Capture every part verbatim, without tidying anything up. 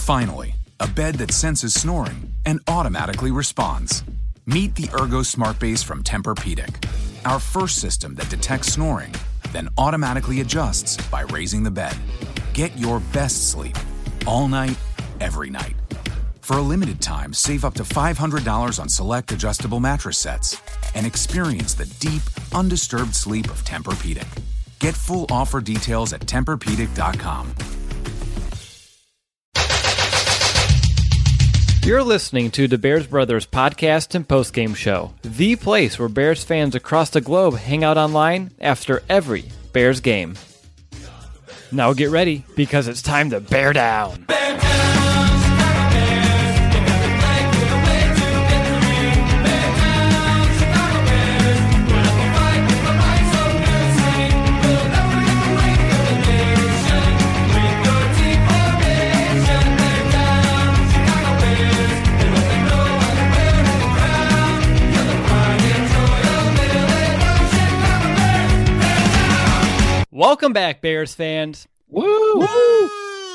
Finally, a bed that senses snoring and automatically responds. Meet the Ergo Smart Base from Tempur-Pedic, our first system that detects snoring, then automatically adjusts by raising the bed. Get your best sleep all night, every night. For a limited time, save up to five hundred dollars on select adjustable mattress sets and experience the deep, undisturbed sleep of Tempur-Pedic. Get full offer details at Tempur Pedic dot com. You're listening to the Bears Brothers podcast and postgame show, the place where Bears fans across the globe hang out online after every Bears game. Now get ready, because it's time to bear down. Bear down! Welcome back, Bears fans. Woo! Woo!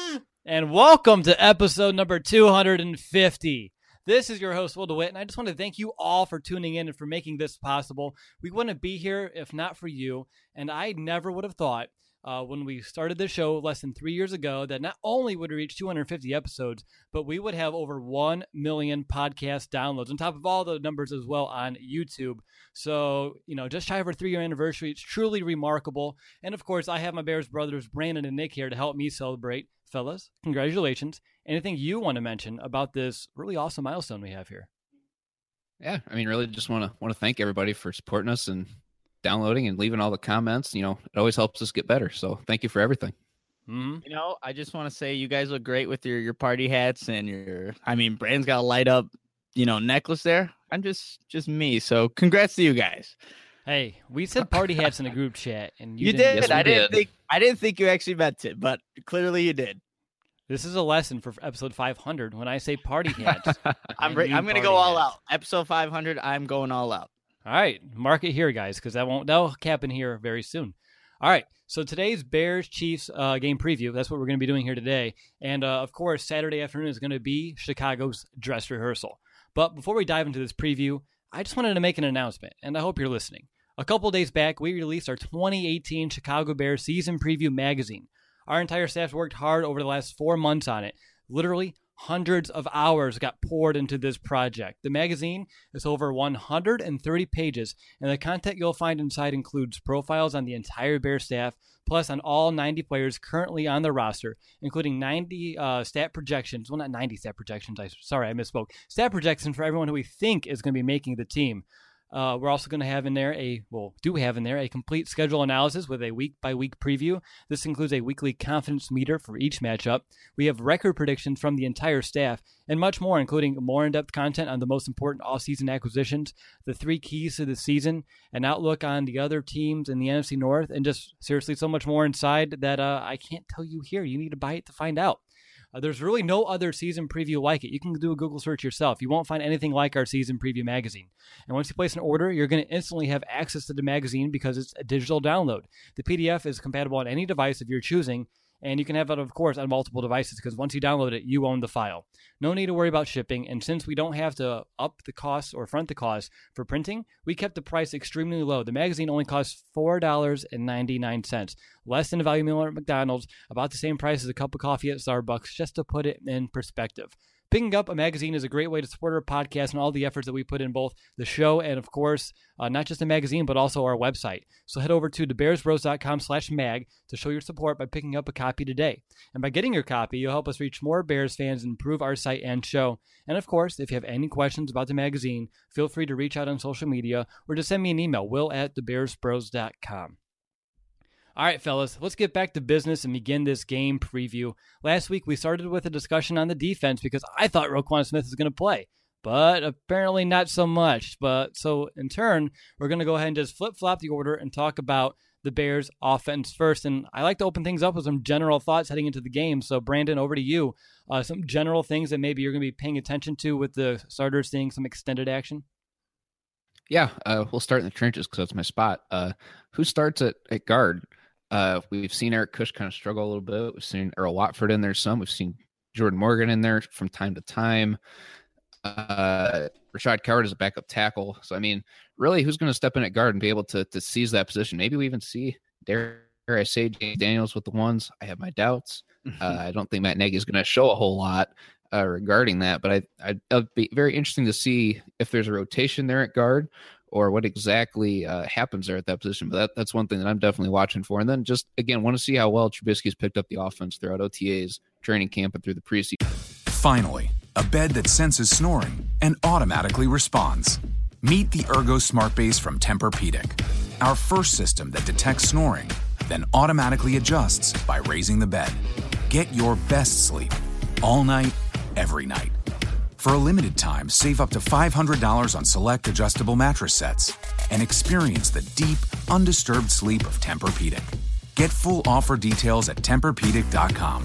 And welcome to episode number two hundred fifty. This is your host, Will DeWitt, and I just want to thank you all for tuning in and for making this possible. We wouldn't be here if not for you, and I never would have thought uh, when we started this show less than three years ago that not only would we reach two hundred fifty episodes, but we would have over one million podcast downloads, on top of all the numbers as well on YouTube. So, you know, just shy of our three-year anniversary. It's truly remarkable. And, of course, I have my Bears brothers, Brandon and Nick, here to help me celebrate. Fellas, congratulations. Anything you want to mention about this really awesome milestone we have here? Yeah, I mean, really just want to want to thank everybody for supporting us and downloading and leaving all the comments. You know, it always helps us get better. So thank you for everything. Mm-hmm. You know, I just want to say you guys look great with your, your party hats and your, I mean, Brandon's got a light up, you know, necklace there. I'm just, just me. So congrats to you guys. Hey, we said party hats in a group chat, and you, you didn't. did. Yes, I didn't did. think, I didn't think you actually meant it, but clearly you did. This is a lesson for episode five hundred. When I say party hats, I'm re- I'm going to go all hats. out. Episode five hundred, I'm going all out. All right, mark it here, guys, because that won't that'll happen here very soon. All right, so today's Bears-Chiefs uh, game preview, that's what we're going to be doing here today. And, uh, of course, Saturday afternoon is going to be Chicago's dress rehearsal. But before we dive into this preview, I just wanted to make an announcement, and I hope you're listening. A couple days back, we released our twenty eighteen Chicago Bears Season Preview magazine. Our entire staff worked hard over the last four months on it. Literally, hundreds of hours got poured into this project. The magazine is over one hundred thirty pages, and the content you'll find inside includes profiles on the entire Bears staff, plus on all ninety players currently on the roster, including ninety uh, stat projections. Well, not ninety stat projections. I Sorry, I misspoke. Stat projections for everyone who we think is going to be making the team. Uh, we're also going to have in there a, well, do we have in there a complete schedule analysis with a week-by-week preview. This includes a weekly confidence meter for each matchup. We have record predictions from the entire staff and much more, including more in-depth content on the most important off-season acquisitions, the three keys to the season, an outlook on the other teams in the N F C North, and just seriously so much more inside that uh, I can't tell you here. You need to buy it to find out. Uh, there's really no other season preview like it. You can do a Google search yourself. You won't find anything like our season preview magazine. And once you place an order, you're going to instantly have access to the magazine because it's a digital download. The P D F is compatible on any device of your choosing, and you can have it, of course, on multiple devices because once you download it, you own the file. No need to worry about shipping, and since we don't have to up the cost or front the cost for printing, we kept the price extremely low. The magazine only costs four dollars and ninety-nine cents, less than a value meal at McDonald's, about the same price as a cup of coffee at Starbucks, just to put it in perspective. Picking up a magazine is a great way to support our podcast and all the efforts that we put in both the show and, of course, uh, not just the magazine, but also our website. So head over to thebearsbros.com slash mag to show your support by picking up a copy today. And by getting your copy, you'll help us reach more Bears fans and improve our site and show. And, of course, if you have any questions about the magazine, feel free to reach out on social media or just send me an email, will at thebearsbros dot com. All right, fellas, let's get back to business and begin this game preview. Last week, we started with a discussion on the defense because I thought Roquan Smith was going to play, but apparently not so much. But so in turn, we're going to go ahead and just flip-flop the order and talk about the Bears offense first. And I like to open things up with some general thoughts heading into the game. So Brandon, over to you. Uh, some general things that maybe you're going to be paying attention to with the starters seeing some extended action. Yeah, uh, we'll start in the trenches because that's my spot. Uh, who starts at, at guard? Uh, we've seen Eric Kush kind of struggle a little bit. We've seen Earl Watford in there some. We've seen Jordan Morgan in there from time to time. Uh, Rashad Coward is a backup tackle. So, I mean, really, who's going to step in at guard and be able to to seize that position? Maybe we even see, dare I say, James Daniels with the ones. I have my doubts. Uh, I don't think Matt Nagy is going to show a whole lot uh, regarding that, but I, I, it'll be very interesting to see if there's a rotation there at guard or what exactly uh, happens there at that position. But that, that's one thing that I'm definitely watching for. And then just, again, want to see how well Trubisky's picked up the offense throughout O T As, training camp, and through the preseason. Finally, a bed that senses snoring and automatically responds. Meet the Ergo Smart Base from Tempur-Pedic, our first system that detects snoring, then automatically adjusts by raising the bed. Get your best sleep all night, every night. For a limited time, save up to five hundred dollars on select adjustable mattress sets and experience the deep, undisturbed sleep of Tempur-Pedic. Get full offer details at Tempur Pedic dot com.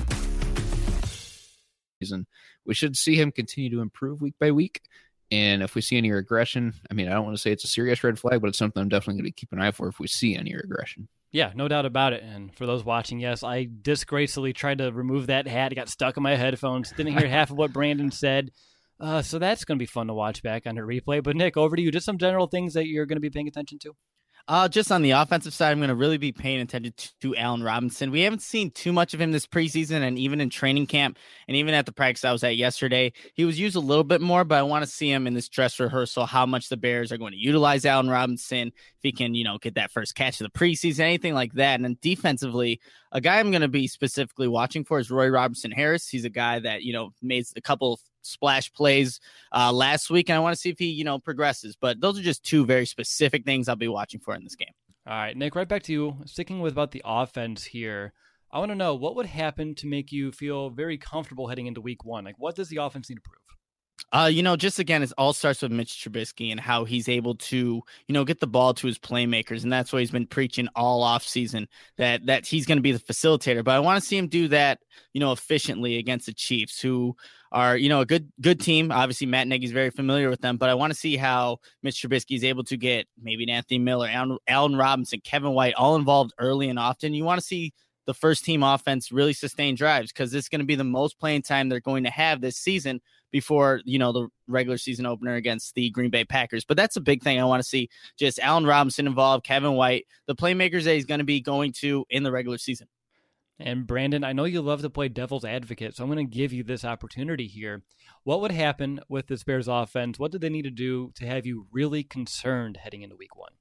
We should see him continue to improve week by week. And if we see any regression, I mean, I don't want to say it's a serious red flag, but it's something I'm definitely going to keep an eye for if we see any regression. Yeah, no doubt about it. And for those watching, yes, I disgracefully tried to remove that hat. It got stuck in my headphones. Didn't hear half of what Brandon said. Uh, so that's going to be fun to watch back on her replay. But Nick, over to you. Just some general things that you're going to be paying attention to. Uh, just on the offensive side, I'm going to really be paying attention to, to Allen Robinson. We haven't seen too much of him this preseason, and even in training camp, and even at the practice I was at yesterday, he was used a little bit more, but I want to see him in this dress rehearsal, how much the Bears are going to utilize Allen Robinson, if he can, you know, get that first catch of the preseason, anything like that. And then defensively, a guy I'm going to be specifically watching for is Roy Robertson Harris. He's a guy that, you know, made a couple of splash plays uh, last week, and I want to see if he, you know, progresses. But those are just two very specific things I'll be watching for in this game. All right, Nick, right back to you. Sticking with about the offense here, I want to know what would happen to make you feel very comfortable heading into week one? Like, what does the offense need to prove? Uh, you know, just again, it all starts with Mitch Trubisky and how he's able to, you know, get the ball to his playmakers. And that's what he's been preaching all off season, that, that he's going to be the facilitator. But I want to see him do that, you know, efficiently against the Chiefs, who are, you know, a good, good team. Obviously, Matt Nagy's very familiar with them, but I want to see how Mitch Trubisky is able to get maybe Anthony Miller, Allen, Allen Robinson, Kevin White, all involved early and often. You want to see the first team offense really sustain drives, because it's going to be the most playing time they're going to have this season before, you know, the regular season opener against the Green Bay Packers. But that's a big thing. I want to see just Allen Robinson involved, Kevin White, the playmakers that he's going to be going to in the regular season. And Brandon, I know you love to play devil's advocate, so I'm going to give you this opportunity here. What would happen with this Bears offense? What do they need to do to have you really concerned heading into week one?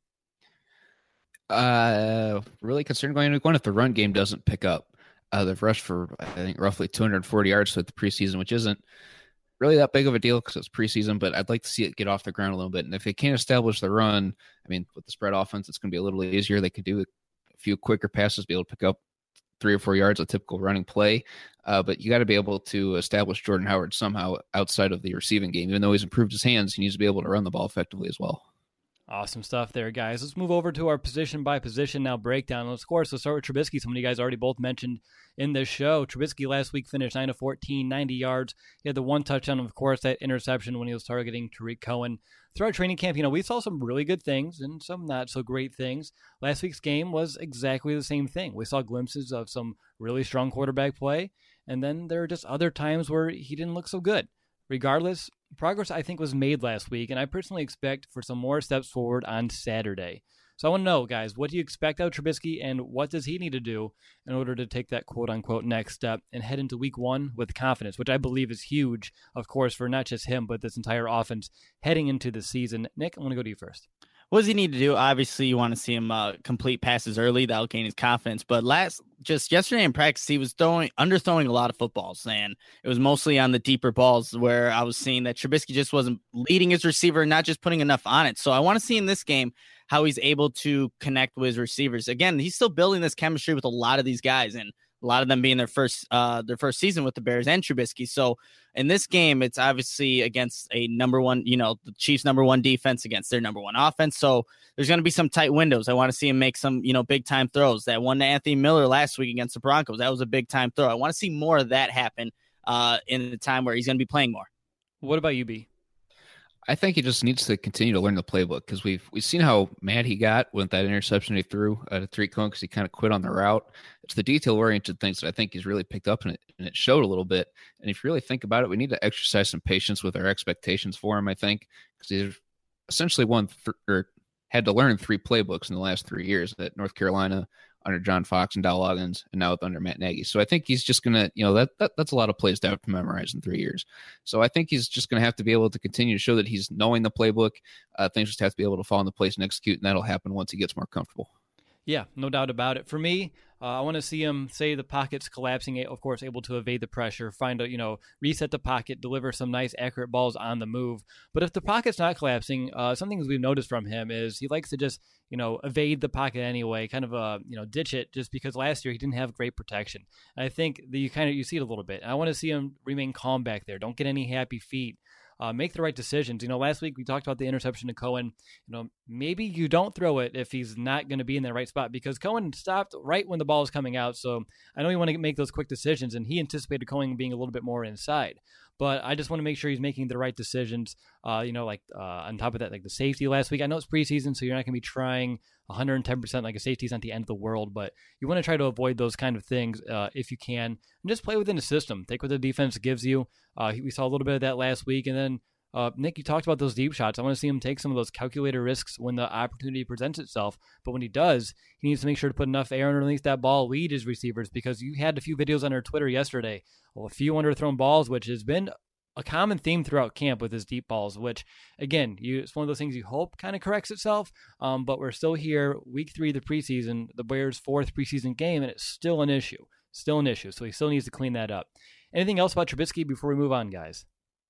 Uh, really concerned going into week one if the run game doesn't pick up. Uh, they've rushed for, I think, roughly two hundred forty yards with the preseason, which isn't really that big of a deal because it's preseason, but I'd like to see it get off the ground a little bit. And if they can't establish the run, I mean, with the spread offense, it's going to be a little easier. They could do a few quicker passes, be able to pick up three or four yards, a typical running play. Uh, but you got to be able to establish Jordan Howard somehow outside of the receiving game. Even though he's improved his hands, he needs to be able to run the ball effectively as well. Awesome stuff there, guys. Let's move over to our position by position now breakdown. Of course, let's start with Trubisky. Some of you guys already both mentioned in this show. Trubisky last week finished nine of fourteen, ninety yards. He had the one touchdown, of course, that interception when he was targeting Tariq Cohen. Throughout training camp, you know, we saw some really good things and some not so great things. Last week's game was exactly the same thing. We saw glimpses of some really strong quarterback play, and then there are just other times where he didn't look so good. Regardless, progress, I think, was made last week, and I personally expect for some more steps forward on Saturday. So I want to know, guys, what do you expect out of Trubisky, and what does he need to do in order to take that quote-unquote next step and head into week one with confidence, which I believe is huge, of course, for not just him, but this entire offense heading into the season. Nick, I want to go to you first. What does he need to do? Obviously, you want to see him uh, complete passes early. That'll gain his confidence. But last, just yesterday in practice, he was throwing, underthrowing a lot of footballs, and it was mostly on the deeper balls where I was seeing that Trubisky just wasn't leading his receiver, not just putting enough on it. So I want to see in this game how he's able to connect with his receivers. Again, he's still building this chemistry with a lot of these guys, and a lot of them being their first uh, their first season with the Bears and Trubisky. So in this game, it's obviously against a number one, you know, the Chiefs' number one defense against their number one offense. So there's going to be some tight windows. I want to see him make some, you know, big time throws. That one to Anthony Miller last week against the Broncos, that was a big time throw. I want to see more of that happen uh, in the time where he's going to be playing more. What about you, B? I think he just needs to continue to learn the playbook because we've we've seen how mad he got with that interception he threw uh, to Tariq Cohen because he kind of quit on the route. It's the detail-oriented things that I think he's really picked up in it, and it showed a little bit. And if you really think about it, we need to exercise some patience with our expectations for him, I think, because he's essentially won th- or had to learn three playbooks in the last three years at North Carolina, under John Fox and Dow Loggins, and now under Matt Nagy. So I think he's just going to, you know, that, that that's a lot of plays to have to memorize in three years. So I think he's just going to have to be able to continue to show that he's knowing the playbook. Uh, things just have to be able to fall into place and execute, and that'll happen once he gets more comfortable. Yeah, no doubt about it. For me, uh, I want to see him, say the pocket's collapsing, of course, able to evade the pressure, find a, you know, reset the pocket, deliver some nice, accurate balls on the move. But if the pocket's not collapsing, uh, some things we've noticed from him is he likes to just, you know, evade the pocket anyway, kind of, uh, you know, ditch it just because last year he didn't have great protection. And I think that you kind of, you see it a little bit. And I want to see him remain calm back there. Don't get any happy feet. Uh, make the right decisions. You know, last week we talked about the interception to Cohen. You know, maybe you don't throw it if he's not going to be in the right spot because Cohen stopped right when the ball was coming out. So I know you want to make those quick decisions, and he anticipated Cohen being a little bit more inside. But I just want to make sure he's making the right decisions. Uh, you know, like uh, on top of that, like the safety last week. I know it's preseason, so you're not going to be trying one hundred ten percent like a safety is not the end of the world, but you want to try to avoid those kind of things uh, if you can, and just play within the system. Take what the defense gives you. Uh, we saw a little bit of that last week, and then uh, Nick, you talked about those deep shots. I want to see him take some of those calculated risks when the opportunity presents itself. But when he does, he needs to make sure to put enough air underneath that ball, lead his receivers, because you had a few videos on our Twitter yesterday, well, a few underthrown balls, which has been a common theme throughout camp with his deep balls, which, again, you, it's one of those things you hope kind of corrects itself, um, but we're still here, week three of the preseason, the Bears' fourth preseason game, and it's still an issue. Still an issue, so he still needs to clean that up. Anything else about Trubisky before we move on, guys?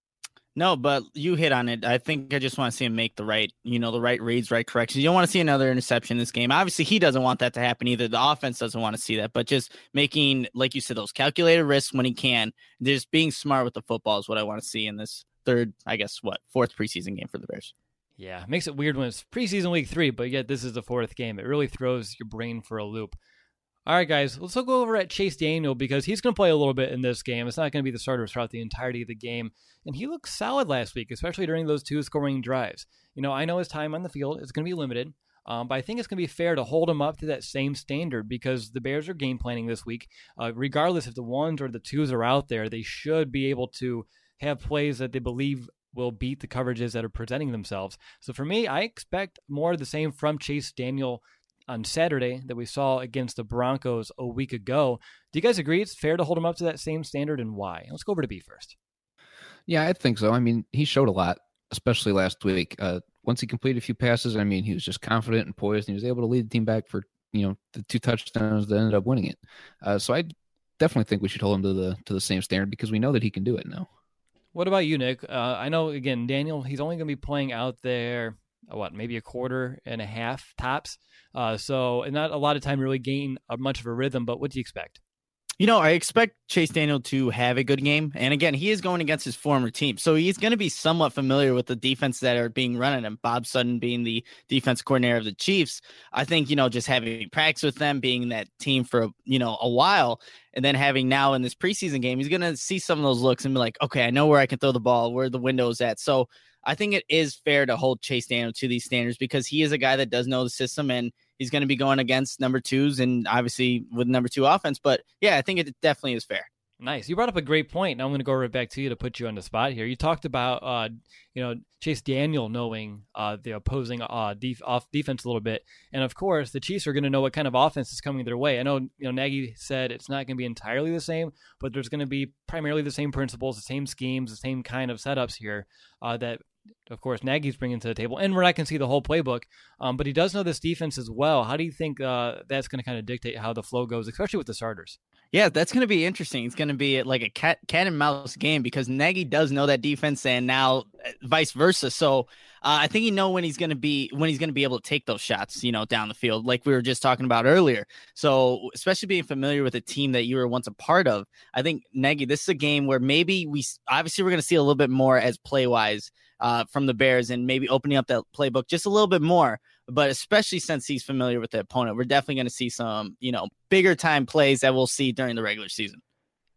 No, but you hit on it. I think I just want to see him make the right, you know, the right reads, right corrections. You don't want to see another interception in this game. Obviously, he doesn't want that to happen either. The offense doesn't want to see that, but just making, like you said, those calculated risks when he can. Just being smart with the football is what I want to see in this third, I guess, what, fourth preseason game for the Bears. Yeah, it makes it weird when it's preseason week three, but yet this is the fourth game. It really throws your brain for a loop. All right, guys, let's go over at Chase Daniel because he's going to play a little bit in this game. It's not going to be the starter throughout the entirety of the game. And he looked solid last week, especially during those two scoring drives. You know, I know his time on the field is going to be limited, um, but I think it's going to be fair to hold him up to that same standard because the Bears are game planning this week. Uh, regardless if the ones or the twos are out there, they should be able to have plays that they believe will beat the coverages that are presenting themselves. So for me, I expect more of the same from Chase Daniel on Saturday that we saw against the Broncos a week ago. Do you guys agree it's fair to hold him up to that same standard, and why? Let's go over to B first. Yeah, I think so. I mean, he showed a lot, especially last week. Uh, once he completed a few passes, I mean, he was just confident and poised, and he was able to lead the team back for, you know, the two touchdowns that ended up winning it. Uh, so I definitely think we should hold him to the to the same standard because we know that he can do it now. What about you, Nick? Uh, I know, again, Daniel, he's only going to be playing out there, what, maybe a quarter and a half tops. Uh, so and not a lot of time to really gain a, much of a rhythm, but what do you expect? You know, I expect Chase Daniel to have a good game. And again, he is going against his former team. So he's going to be somewhat familiar with the defense that are being run at him. Bob Sutton being the defense coordinator of the Chiefs. I think, you know, just having practice with them, being that team for, you know, a while, and then having now in this preseason game, he's going to see some of those looks and be like, okay, I know where I can throw the ball, where the window's at. So I think it is fair to hold Chase Daniel to these standards because he is a guy that does know the system and he's going to be going against number twos and obviously with number two offense. But yeah, I think it definitely is fair. Nice. You brought up a great point. Now I'm going to go right back to you to put you on the spot here. You talked about, uh, you know, Chase Daniel knowing uh, the opposing uh, def- off defense a little bit. And of course, the Chiefs are going to know what kind of offense is coming their way. I know, you know, Nagy said it's not going to be entirely the same, but there's going to be primarily the same principles, the same schemes, the same kind of setups here uh, that, of course, Nagy's bringing to the table. And we're not going to see the whole playbook, um, but he does know this defense as well. How do you think uh, that's going to kind of dictate how the flow goes, especially with the starters? Yeah, that's going to be interesting. It's going to be like a cat cat and mouse game because Nagy does know that defense and now vice versa. So uh, I think he know when he's going to be when he's going to be able to take those shots, you know, down the field, like we were just talking about earlier. So especially being familiar with a team that you were once a part of, I think Nagy, this is a game where maybe we obviously we're going to see a little bit more as play wise uh, from the Bears and maybe opening up that playbook just a little bit more. But especially since he's familiar with the opponent, we're definitely going to see some, you know, bigger time plays that we'll see during the regular season.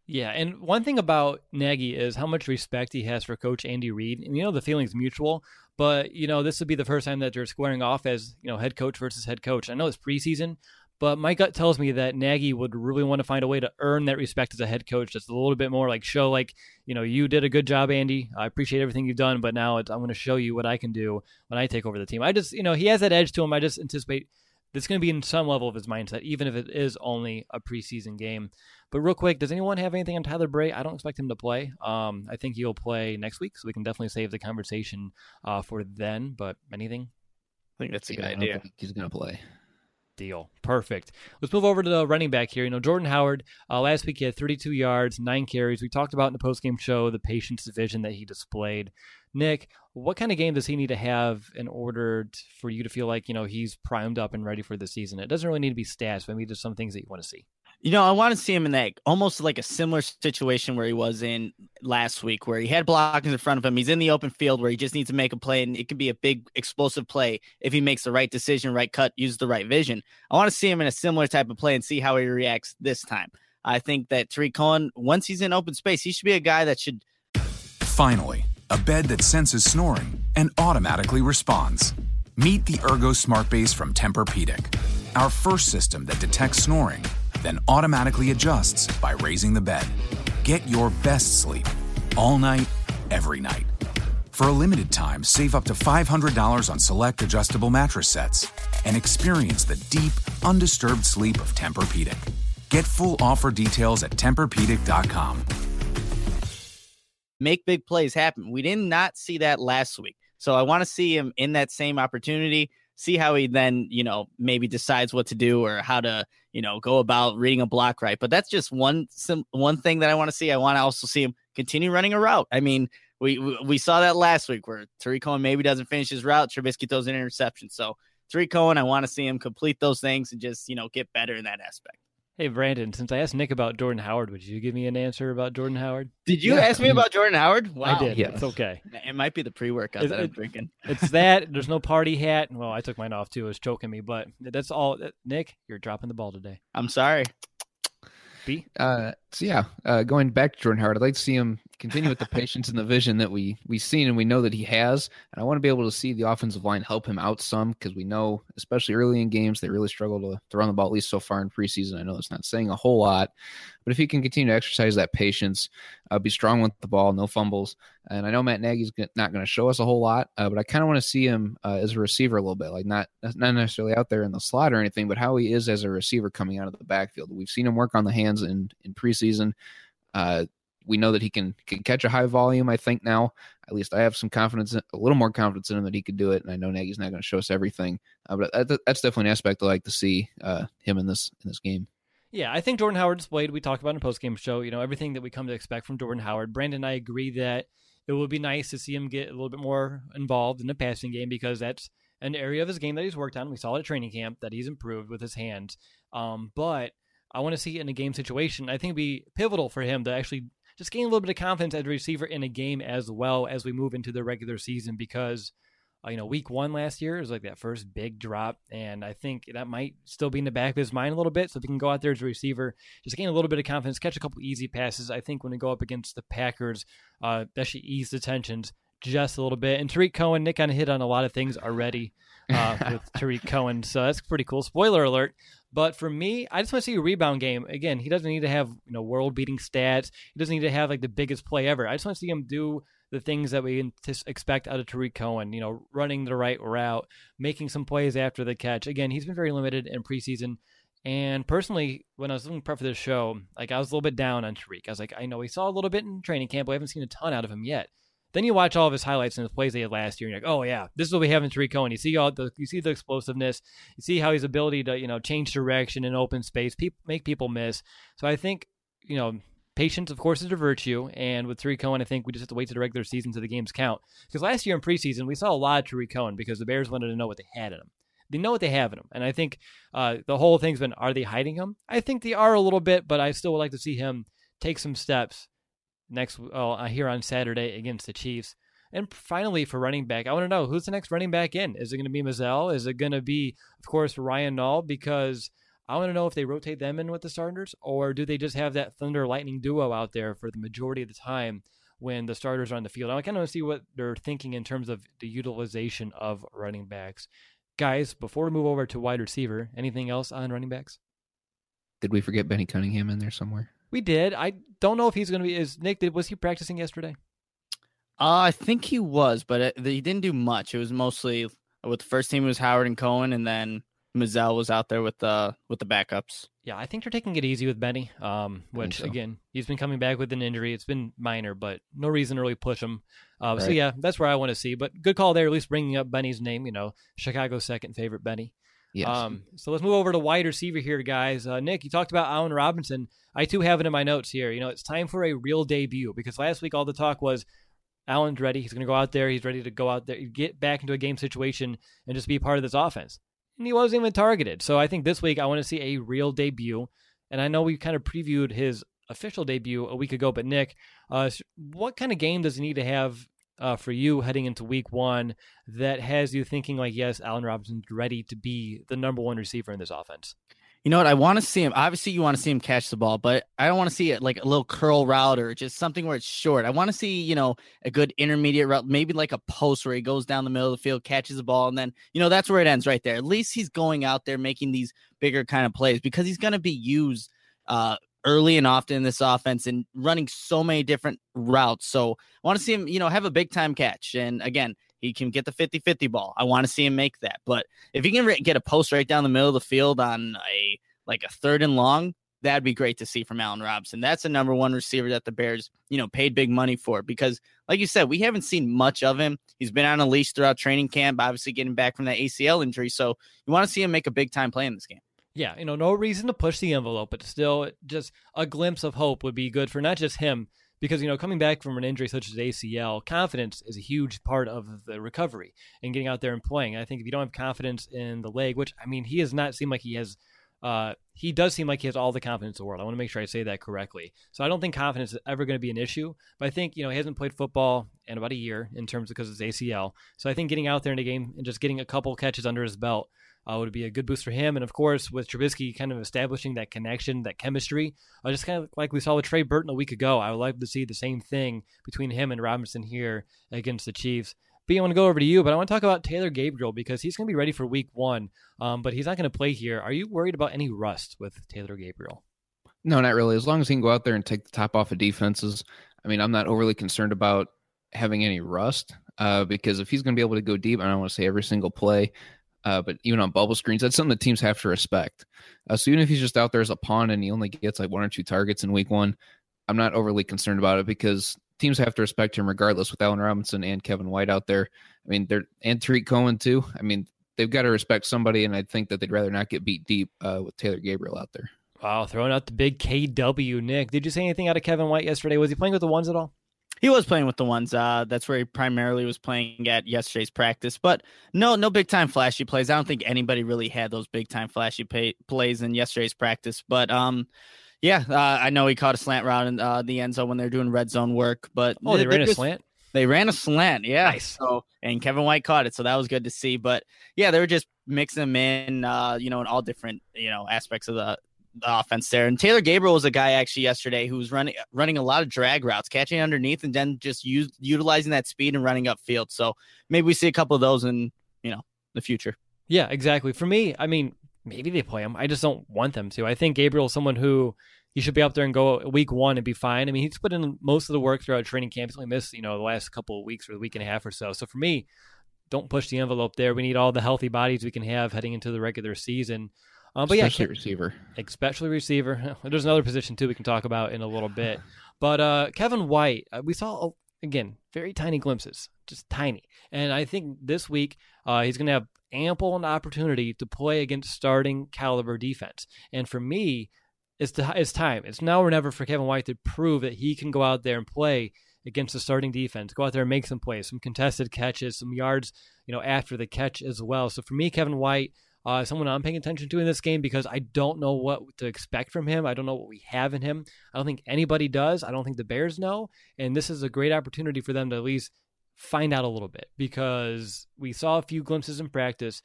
Yeah, and one thing about Nagy is how much respect he has for Coach Andy Reid. And, you know, the feeling's mutual, but, you know, this would be the first time that they're squaring off as, you know, head coach versus head coach. I know it's preseason, but my gut tells me that Nagy would really want to find a way to earn that respect as a head coach. Just a little bit more like show like, you know, you did a good job, Andy. I appreciate everything you've done, but now it's, I'm going to show you what I can do when I take over the team. I just, you know, he has that edge to him. I just anticipate this is going to be in some level of his mindset, even if it is only a preseason game. But real quick, does anyone have anything on Tyler Bray? I don't expect him to play. Um, I think he'll play next week, so we can definitely save the conversation uh, for then. But anything? I think that's a Yeah, good I don't idea. think he's going to play. Deal. Perfect. Let's move over to the running back here. You know, Jordan Howard, uh, last week he had thirty-two yards, nine carries. We talked about in the postgame show the patience division that he displayed. Nick, what kind of game does he need to have in order t- for you to feel like, you know, he's primed up and ready for the season? It doesn't really need to be stats, but maybe just some things that you want to see. You know, I want to see him in that almost like a similar situation where he was in last week, where he had blockers in front of him. He's in the open field where he just needs to make a play, and it could be a big explosive play if he makes the right decision, right cut, uses the right vision. I want to see him in a similar type of play and see how he reacts this time. I think that Tarik Cohen, once he's in open space, he should be a guy that should. Finally, a bed that senses snoring and automatically responds. Meet the Ergo Smart Base from Tempur-Pedic, our first system that detects snoring, then automatically adjusts by raising the bed. Get your best sleep all night, every night. For a limited time, save up to five hundred dollars on select adjustable mattress sets and experience the deep, undisturbed sleep of Tempur-Pedic. Get full offer details at Tempur Pedic dot com. Make big plays happen. We did not see that last week. So I want to see him in that same opportunity, see how he then, you know, maybe decides what to do or how to, you know, go about reading a block right. But that's just one some, one thing that I want to see. I want to also see him continue running a route. I mean, we we, we saw that last week where Tarik Cohen maybe doesn't finish his route. Trubisky throws an interception. So Tarik Cohen, I want to see him complete those things and just, you know, get better in that aspect. Hey, Brandon, since I asked Nick about Jordan Howard, would you give me an answer about Jordan Howard? Did you Yeah. ask me about Jordan Howard? Wow. I did. Yes. It's okay. It might be the pre-workout Is that I'm it- drinking. It's that. There's no party hat. Well, I took mine off, too. It was choking me. But that's all. Nick, you're dropping the ball today. I'm sorry. B? Uh, so yeah, uh, going back to Jordan Howard, I'd like to see him continue with the patience and the vision that we we've seen and we know that he has. And I want to be able to see the offensive line help him out some because we know, especially early in games, they really struggle to, to run the ball, at least so far in preseason. I know it's not saying a whole lot, but if he can continue to exercise that patience, uh, be strong with the ball, no fumbles. And I know Matt Nagy's not going to show us a whole lot, uh, but I kind of want to see him uh, as a receiver a little bit, like not not necessarily out there in the slot or anything, but how he is as a receiver coming out of the backfield. We've seen him work on the hands in, in preseason. Uh, we know that he can, can catch a high volume, I think now. At least I have some confidence, in, a little more confidence in him that he could do it, and I know Nagy's not going to show us everything. Uh, but that, that's definitely an aspect I like to see uh, him in this in this game. Yeah, I think Jordan Howard displayed, we talked about in a post-game show, you know, everything that we come to expect from Jordan Howard. Brandon and I agree that it would be nice to see him get a little bit more involved in the passing game because that's an area of his game that he's worked on. We saw it at training camp that he's improved with his hands. Um, but I want to see it in a game situation. I think it'd be pivotal for him to actually just gain a little bit of confidence as a receiver in a game as well as we move into the regular season because, uh, you know, week one last year was like that first big drop, and I think that might still be in the back of his mind a little bit. So if he can go out there as a receiver, just gain a little bit of confidence, catch a couple easy passes, I think when we go up against the Packers, uh, that should ease the tensions just a little bit. And Tarik Cohen, Nick kind of hit on a lot of things already uh, with Tarik Cohen, so that's pretty cool. Spoiler alert. But for me, I just want to see a rebound game. Again, he doesn't need to have, you know, world-beating stats. He doesn't need to have like the biggest play ever. I just want to see him do the things that we expect out of Tarik Cohen, you know, running the right route, making some plays after the catch. Again, he's been very limited in preseason. And personally, when I was looking prep for this show, like I was a little bit down on Tarik. I was like, I know we saw a little bit in training camp, but we haven't seen a ton out of him yet. Then you watch all of his highlights and his plays they had last year, and you're like, oh yeah, this is what we have in Tarik Cohen. You see all the, you see the explosiveness, you see how his ability to, you know, change direction in open space, people, make people miss. So I think, you know, patience, of course, is a virtue, and with Tarik Cohen, I think we just have to wait to the regular season to the games count. Because last year in preseason, we saw a lot of Tarik Cohen because the Bears wanted to know what they had in him. They know what they have in him, and I think uh, the whole thing's been, are they hiding him? I think they are a little bit, but I still would like to see him take some steps next uh, here on Saturday against the Chiefs. And finally, for running back, I want to know, who's the next running back in? Is it going to be Mazzell? Is it going to be, of course, Ryan Nall? Because I want to know if they rotate them in with the starters, or do they just have that Thunder Lightning duo out there for the majority of the time when the starters are on the field? I kind of want to see what they're thinking in terms of the utilization of running backs. Guys, before we move over to wide receiver, anything else on running backs? Did we forget Benny Cunningham in there somewhere? We did. I don't know if he's going to be. Is Nick? Did, was he practicing yesterday? Uh, I think he was, but it, he didn't do much. It was mostly with the first team was Howard and Cohen, and then Mazzell was out there with the with the backups. Yeah, I think they're taking it easy with Benny. Um, which so. again, he's been coming back with an injury. It's been minor, but no reason to really push him. Uh, right. So yeah, that's where I want to see. But good call there, at least bringing up Benny's name. You know, Chicago's second favorite Benny. Yes. Um, so let's move over to wide receiver here, guys. Uh, Nick, you talked about Allen Robinson. I too have it in my notes here. You know, it's time for a real debut because last week all the talk was Allen's ready. He's going to go out there. He's ready to go out there, get back into a game situation and just be part of this offense. And he wasn't even targeted. So I think this week I want to see a real debut. And I know we kind of previewed his official debut a week ago, but Nick, uh, what kind of game does he need to have uh, for you heading into week one that has you thinking like, yes, Allen Robinson's ready to be the number one receiver in this offense? You know what? I want to see him. Obviously, you want to see him catch the ball, but I don't want to see it like a little curl route or just something where it's short. I want to see, you know, a good intermediate route, maybe like a post where he goes down the middle of the field, catches the ball, and then, you know, that's where it ends right there. At least he's going out there making these bigger kind of plays because he's going to be used uh, early and often in this offense and running so many different routes. So I want to see him, you know, have a big time catch. And again, he can get the fifty-fifty ball. I want to see him make that. But if he can re- get a post right down the middle of the field on a like a third and long, that'd be great to see from Allen Robinson. That's the number one receiver that the Bears, you know, paid big money for because, like you said, we haven't seen much of him. He's been on a leash throughout training camp, obviously getting back from that A C L injury. So you want to see him make a big time play in this game. Yeah, you know, no reason to push the envelope, but still just a glimpse of hope would be good for not just him, because, you know, coming back from an injury such as A C L, confidence is a huge part of the recovery and getting out there and playing. I think if you don't have confidence in the leg, which, I mean, he does not seem like he has, uh, he does seem like he has all the confidence in the world. I want to make sure I say that correctly. So I don't think confidence is ever going to be an issue, but I think, you know, he hasn't played football in about a year in terms of because it's A C L. So I think getting out there in a game and just getting a couple catches under his belt Uh, would be a good boost for him. And of course, with Trubisky kind of establishing that connection, that chemistry, uh, just kind of like we saw with Trey Burton a week ago, I would like to see the same thing between him and Robinson here against the Chiefs. B, I want to go over to you, but I want to talk about Taylor Gabriel because he's going to be ready for week one, um, but he's not going to play here. Are you worried about any rust with Taylor Gabriel? No, not really. As long as he can go out there and take the top off of defenses, I mean, I'm not overly concerned about having any rust uh, because if he's going to be able to go deep, I don't want to say every single play, Uh, but even on bubble screens, that's something that teams have to respect. Uh, so even if he's just out there as a pawn and he only gets like one or two targets in week one, I'm not overly concerned about it because teams have to respect him regardless with Allen Robinson and Kevin White out there. I mean, they're and Tariq Cohen too. I mean, they've got to respect somebody, and I think that they'd rather not get beat deep uh, with Taylor Gabriel out there. Wow, throwing out the big K W, Nick. Did you say anything out of Kevin White yesterday? Was he playing with the ones at all? He was playing with the ones. Uh, that's where he primarily was playing at yesterday's practice. But no, no big time flashy plays. I don't think anybody really had those big time flashy pay, plays in yesterday's practice. But um, yeah, uh, I know he caught a slant route in uh, the end zone when they're doing red zone work. But oh, they, they ran just, a slant. They ran a slant, yeah. Nice. So and Kevin White caught it, so that was good to see. But yeah, they were just mixing them in, uh, you know, in all different you know aspects of the. The offense there. And Taylor Gabriel was a guy actually yesterday who was running running a lot of drag routes, catching underneath and then just use, utilizing that speed and running upfield. So maybe we see a couple of those in, you know, the future. Yeah, exactly. For me, I mean, maybe they play him. I just don't want them to. I think Gabriel is someone who he should be up there and go week one and be fine. I mean, he's put in most of the work throughout training camp. He's only missed, you know, the last couple of weeks or the week and a half or so. So for me, don't push the envelope there. We need all the healthy bodies we can have heading into the regular season. Um, but especially yeah, receiver. Especially receiver. There's another position, too, we can talk about in a little bit. But uh, Kevin White, uh, we saw, again, very tiny glimpses, just tiny. And I think this week uh, he's going to have ample an opportunity to play against starting caliber defense. And for me, it's, the, it's time. It's now or never for Kevin White to prove that he can go out there and play against the starting defense, go out there and make some plays, some contested catches, some yards, you know, after the catch as well. So for me, Kevin White, Uh, someone I'm paying attention to in this game because I don't know what to expect from him. I don't know what we have in him. I don't think anybody does. I don't think the Bears know. And this is a great opportunity for them to at least find out a little bit because we saw a few glimpses in practice.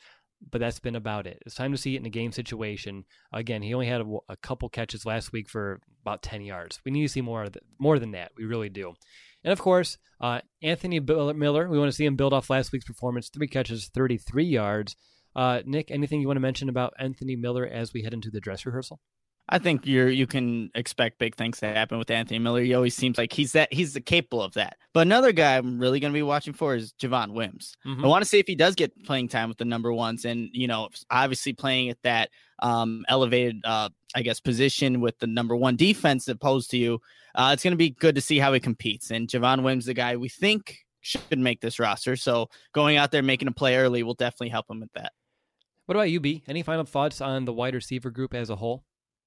but that's been about it. It's time to see it in a game situation. Again, he only had a, a couple catches last week for about ten yards. We need to see more of the, more than that. We really do. And of course, uh, Anthony Miller, we want to see him build off last week's performance. Three catches, thirty-three yards. Uh, Nick, anything you want to mention about Anthony Miller as we head into the dress rehearsal? I think you're you can expect big things to happen with Anthony Miller. He always seems like he's that he's capable of that. But another guy I'm really going to be watching for is Javon Wims. Mm-hmm. I want to see if he does get playing time with the number ones, and you know, obviously playing at that um, elevated, uh, I guess, position with the number one defense opposed to you. Uh, it's going to be good to see how he competes. And Javon Wims, the guy we think should make this roster, so going out there making a play early will definitely help him with that. What about you, B? Any final thoughts on the wide receiver group as a whole?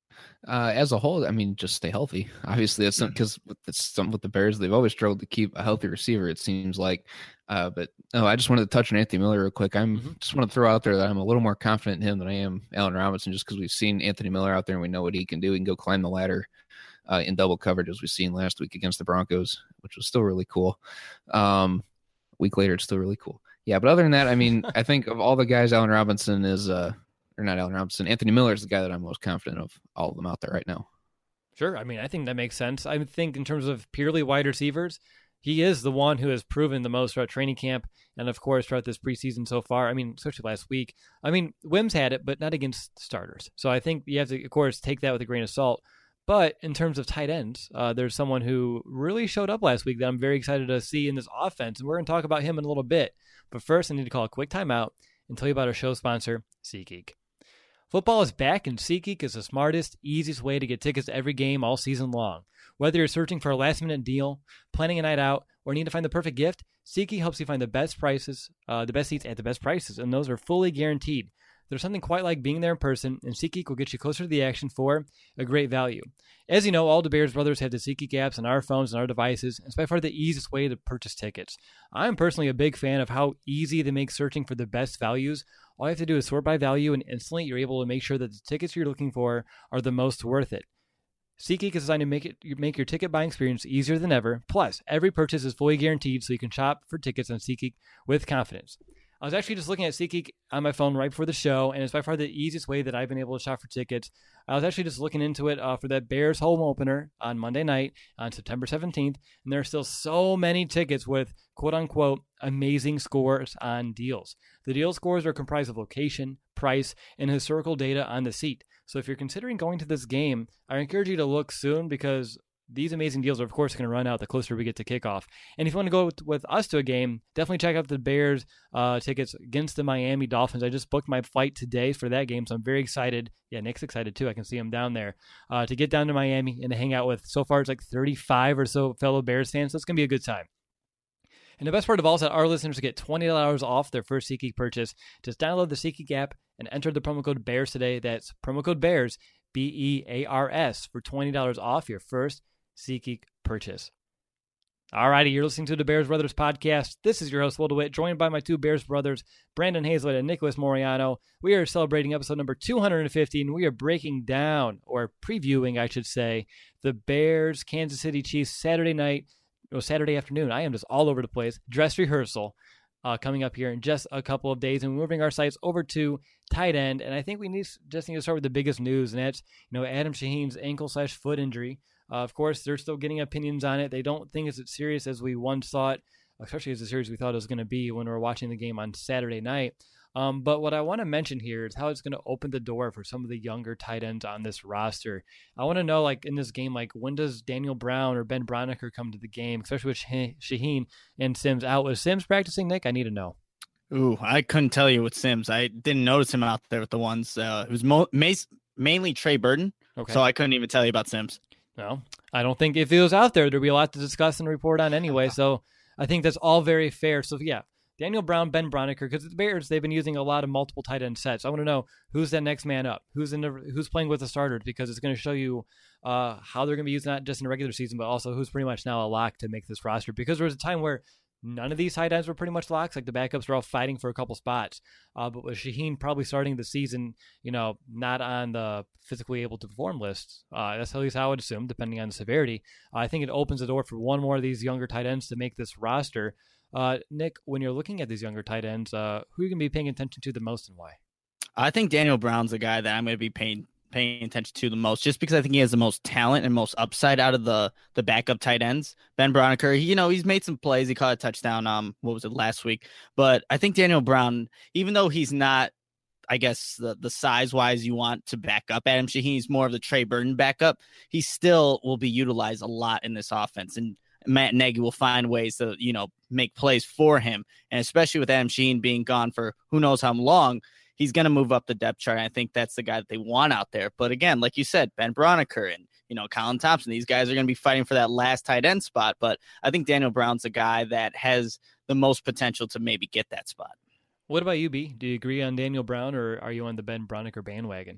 Uh, as a whole, I mean, just stay healthy. Obviously, that's because with the, some with the Bears, they've always struggled to keep a healthy receiver, it seems like. Uh, but no, I just wanted to touch on Anthony Miller real quick. I'm mm-hmm. just want to throw out there that I'm a little more confident in him than I am Allen Robinson, just because we've seen Anthony Miller out there and we know what he can do. He can go climb the ladder uh, in double coverage, as we've seen last week against the Broncos, which was still really cool. Um, a week later, it's still really cool. Yeah, but other than that, I mean, I think of all the guys, Allen Robinson is uh, – or not Allen Robinson, Anthony Miller is the guy that I'm most confident of all of them out there right now. Sure. I mean, I think that makes sense. I think in terms of purely wide receivers, he is the one who has proven the most throughout training camp and, of course, throughout this preseason so far. I mean, especially last week. I mean, Wims had it, but not against starters. So I think you have to, of course, take that with a grain of salt. But in terms of tight ends, uh, there's someone who really showed up last week that I'm very excited to see in this offense. And we're going to talk about him in a little bit. But first, I need to call a quick timeout and tell you about our show sponsor, SeatGeek. Football is back, and SeatGeek is the smartest, easiest way to get tickets to every game all season long. Whether you're searching for a last-minute deal, planning a night out, or need to find the perfect gift, SeatGeek helps you find the best prices, uh, the best seats at the best prices, and those are fully guaranteed. There's something quite like being there in person, and SeatGeek will get you closer to the action for a great value. As you know, all the Bears brothers have the SeatGeek apps on our phones and our devices, and it's by far the easiest way to purchase tickets. I'm personally a big fan of how easy they make searching for the best values. All you have to do is sort by value, and instantly you're able to make sure that the tickets you're looking for are the most worth it. SeatGeek is designed to make it make your ticket buying experience easier than ever. Plus, every purchase is fully guaranteed, so you can shop for tickets on SeatGeek with confidence. I was actually just looking at SeatGeek on my phone right before the show, and it's by far the easiest way that I've been able to shop for tickets. I was actually just looking into it uh, for that Bears home opener on Monday night on September seventeenth, and there are still so many tickets with quote-unquote amazing scores on deals. The deal scores are comprised of location, price, and historical data on the seat. So if you're considering going to this game, I encourage you to look soon because these amazing deals are, of course, going to run out the closer we get to kickoff. And if you want to go with, with us to a game, definitely check out the Bears uh, tickets against the Miami Dolphins. I just booked my flight today for that game, so I'm very excited. Yeah, Nick's excited, too. I can see him down there. Uh, to get down to Miami and to hang out with, so far, it's like thirty-five or so fellow Bears fans, so it's going to be a good time. And the best part of all is that our listeners get twenty dollars off their first SeatGeek purchase. Just download the SeatGeek app and enter the promo code BEARS today. That's promo code BEARS, B E A R S, for twenty dollars off your first SeatGeek purchase. All righty, you're listening to the Bears Brothers podcast. This is your host, Will DeWitt, joined by my two Bears brothers, Brandon Hazlett and Nicholas Moriano. We are celebrating episode number two hundred fifty, and we are breaking down, or previewing, I should say, the Bears Kansas City Chiefs Saturday night, or Saturday afternoon. I am just all over the place. Dress rehearsal uh, coming up here in just a couple of days, and we're moving our sights over to tight end. And I think we need just need to start with the biggest news, and that's you know Adam Shaheen's ankle slash foot injury. Uh, of course, they're still getting opinions on it. They don't think it's as serious as we once thought, especially as serious as we thought it was going to be when we were watching the game on Saturday night. Um, but what I want to mention here is how it's going to open the door for some of the younger tight ends on this roster. I want to know, like, in this game, like, when does Daniel Brown or Ben Braunecker come to the game, especially with Shaheen and Sims out? Was Sims practicing, Nick? I need to know. Ooh, I couldn't tell you with Sims. I didn't notice him out there with the ones. Uh, it was mo- mainly Trey Burton, okay. So I couldn't even tell you about Sims. No, I don't think if he was out there, there'd be a lot to discuss and report on anyway. So I think that's all very fair. So, yeah, Daniel Brown, Ben Braunecker, because the Bears, they've been using a lot of multiple tight end sets. I want to know who's that next man up, who's in the, who's playing with the starters, because it's going to show you uh, how they're going to be using not just in the regular season, but also who's pretty much now a lock to make this roster. Because there was a time where none of these tight ends were pretty much locks. Like the backups were all fighting for a couple spots. Uh, but with Shaheen probably starting the season, you know, not on the physically able to perform list, uh, that's at least how I would assume, depending on the severity. Uh, I think it opens the door for one more of these younger tight ends to make this roster. Uh, Nick, when you're looking at these younger tight ends, uh, who are you going to be paying attention to the most and why? I think Daniel Brown's the guy that I'm going to be paying paying attention to the most, just because I think he has the most talent and most upside out of the the backup tight ends. Ben Braunecker, he, you know, he's made some plays. He caught a touchdown. Um, what was it last week? But I think Daniel Brown, even though he's not, I guess the the size wise you want to back up Adam Shaheen, he's more of the Trey Burton backup. He still will be utilized a lot in this offense, and Matt Nagy will find ways to, you know, make plays for him. And especially with Adam Shaheen being gone for who knows how long, he's going to move up the depth chart. I think that's the guy that they want out there. But again, like you said, Ben Braunecker and, you know, Colin Thompson, these guys are going to be fighting for that last tight end spot. But I think Daniel Brown's a guy that has the most potential to maybe get that spot. What about you, B? Do you agree on Daniel Brown, or are you on the Ben Braunecker bandwagon?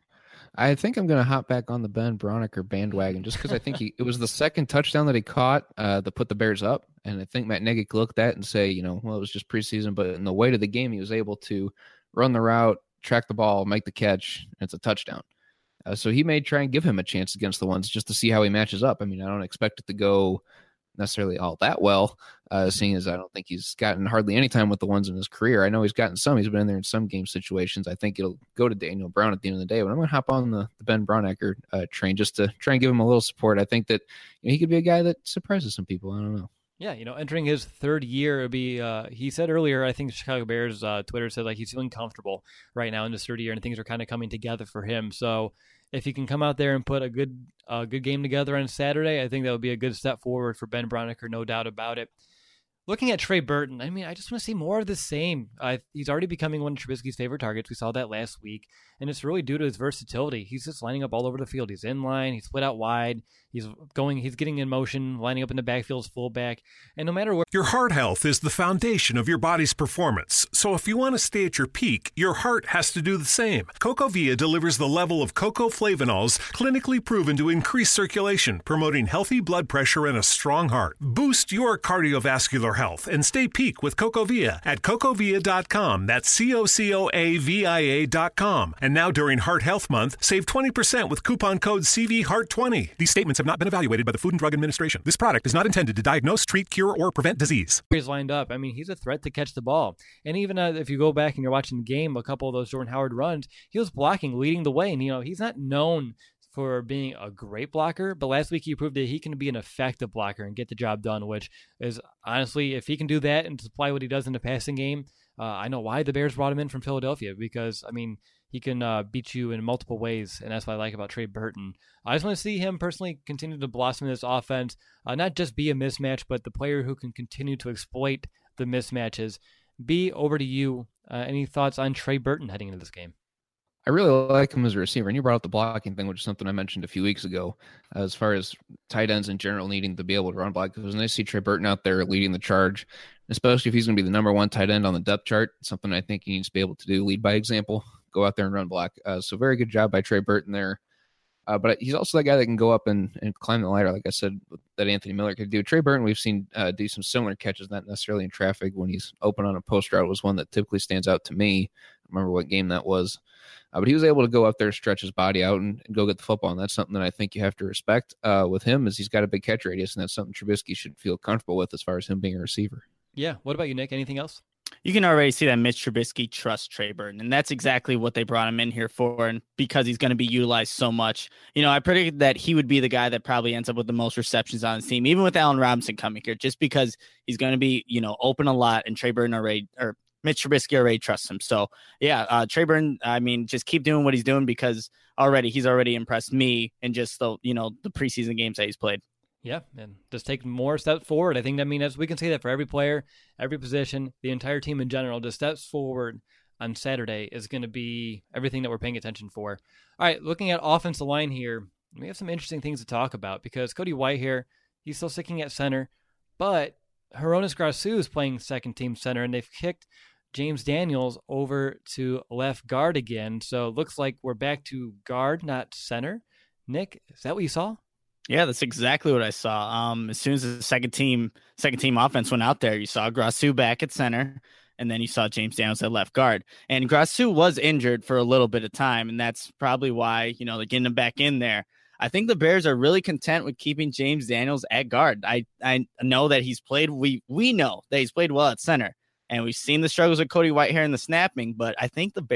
I think I'm going to hop back on the Ben Braunecker bandwagon just because I think he, it was the second touchdown that he caught uh, that put the Bears up. And I think Matt Nagy looked at it and say, you know, well, it was just preseason, but in the weight of the game, he was able to run the route, track the ball, make the catch, and it's a touchdown. Uh, so he may try and give him a chance against the ones just to see how he matches up. I mean, I don't expect it to go necessarily all that well, uh, seeing as I don't think he's gotten hardly any time with the ones in his career. I know he's gotten some. He's been in there in some game situations. I think it'll go to Daniel Brown at the end of the day, but I'm going to hop on the, the Ben Braunecker uh, train just to try and give him a little support. I think that, you know, he could be a guy that surprises some people. I don't know. Yeah, you know, entering his third year, it'd be, uh, he said earlier, I think the Chicago Bears uh, Twitter said like he's feeling comfortable right now in his third year and things are kind of coming together for him. So if he can come out there and put a good uh, good game together on Saturday, I think that would be a good step forward for Ben Braunecker, no doubt about it. Looking at Trey Burton, I mean, I just want to see more of the same. Uh, he's already becoming one of Trubisky's favorite targets. We saw that last week, and it's really due to his versatility. He's just lining up all over the field. He's in line. He's split out wide. He's going. He's getting in motion, lining up in the backfield as fullback. And no matter where... Your heart health is the foundation of your body's performance. So if you want to stay at your peak, your heart has to do the same. CocoVia delivers the level of cocoa flavanols clinically proven to increase circulation, promoting healthy blood pressure and a strong heart. Boost your cardiovascular health and stay peak with CocoVia at cocovia dot com. That's C O C O A V I A dot com. And now during Heart Health Month, save twenty percent with coupon code C V Heart twenty. These statements have not been evaluated by the Food and Drug Administration. This product is not intended to diagnose, treat, cure, or prevent disease. He's lined up. I mean, he's a threat to catch the ball. And even uh, if you go back and you're watching the game, a couple of those Jordan Howard runs, he was blocking, leading the way. And, you know, he's not known for being a great blocker, but last week he proved that he can be an effective blocker and get the job done, which is honestly, if he can do that and supply what he does in the passing game, uh, I know why the Bears brought him in from Philadelphia, because, I mean, he can uh, beat you in multiple ways, and that's what I like about Trey Burton. I just want to see him personally continue to blossom in this offense, uh, not just be a mismatch, but the player who can continue to exploit the mismatches. B, over to you. Uh, any thoughts on Trey Burton heading into this game? I really like him as a receiver. And you brought up the blocking thing, which is something I mentioned a few weeks ago, as far as tight ends in general needing to be able to run block. Because when I see Trey Burton out there leading the charge, especially if he's going to be the number one tight end on the depth chart, something I think he needs to be able to do, lead by example, go out there and run block. Uh, so very good job by Trey Burton there. Uh, but he's also that guy that can go up and, and climb the ladder, like I said, that Anthony Miller could do. Trey Burton, we've seen uh, do some similar catches, not necessarily in traffic. When he's open on a post route was one that typically stands out to me. I remember what game that was. Uh, but he was able to go up there, stretch his body out, and, and go get the football. And that's something that I think you have to respect uh, with him, is he's got a big catch radius, and that's something Trubisky should feel comfortable with as far as him being a receiver. Yeah. What about you, Nick? Anything else? You can already see that Mitch Trubisky trusts Trey Burton, and that's exactly what they brought him in here for, and because he's going to be utilized so much. You know, I predicted that he would be the guy that probably ends up with the most receptions on his team, even with Allen Robinson coming here, just because he's going to be, you know, open a lot, and Trey Burton already, or Mitch Trubisky already trusts him. So, yeah, uh, Trey Burton, I mean, just keep doing what he's doing, because already he's already impressed me in just the, you know, the preseason games that he's played. Yeah, and just take more steps forward. I think, I mean, as we can say that for every player, every position, the entire team in general, just steps forward on Saturday is going to be everything that we're paying attention for. All right, looking at offensive line here, we have some interesting things to talk about, because Cody Whitehair, he's still sticking at center, but Hronis Grasu is playing second team center, and they've kicked James Daniels over to left guard again. So it looks like we're back to guard, not center. Nick, is that what you saw? Yeah, that's exactly what I saw. Um, as soon as the second team second team offense went out there, you saw Grasu back at center, and then you saw James Daniels at left guard. And Grasu was injured for a little bit of time, and that's probably why, you know, they're getting him back in there. I think the Bears are really content with keeping James Daniels at guard. I, I know that he's played, we we know that he's played well at center, and we've seen the struggles with Cody Whitehair in the snapping, but I think the Bears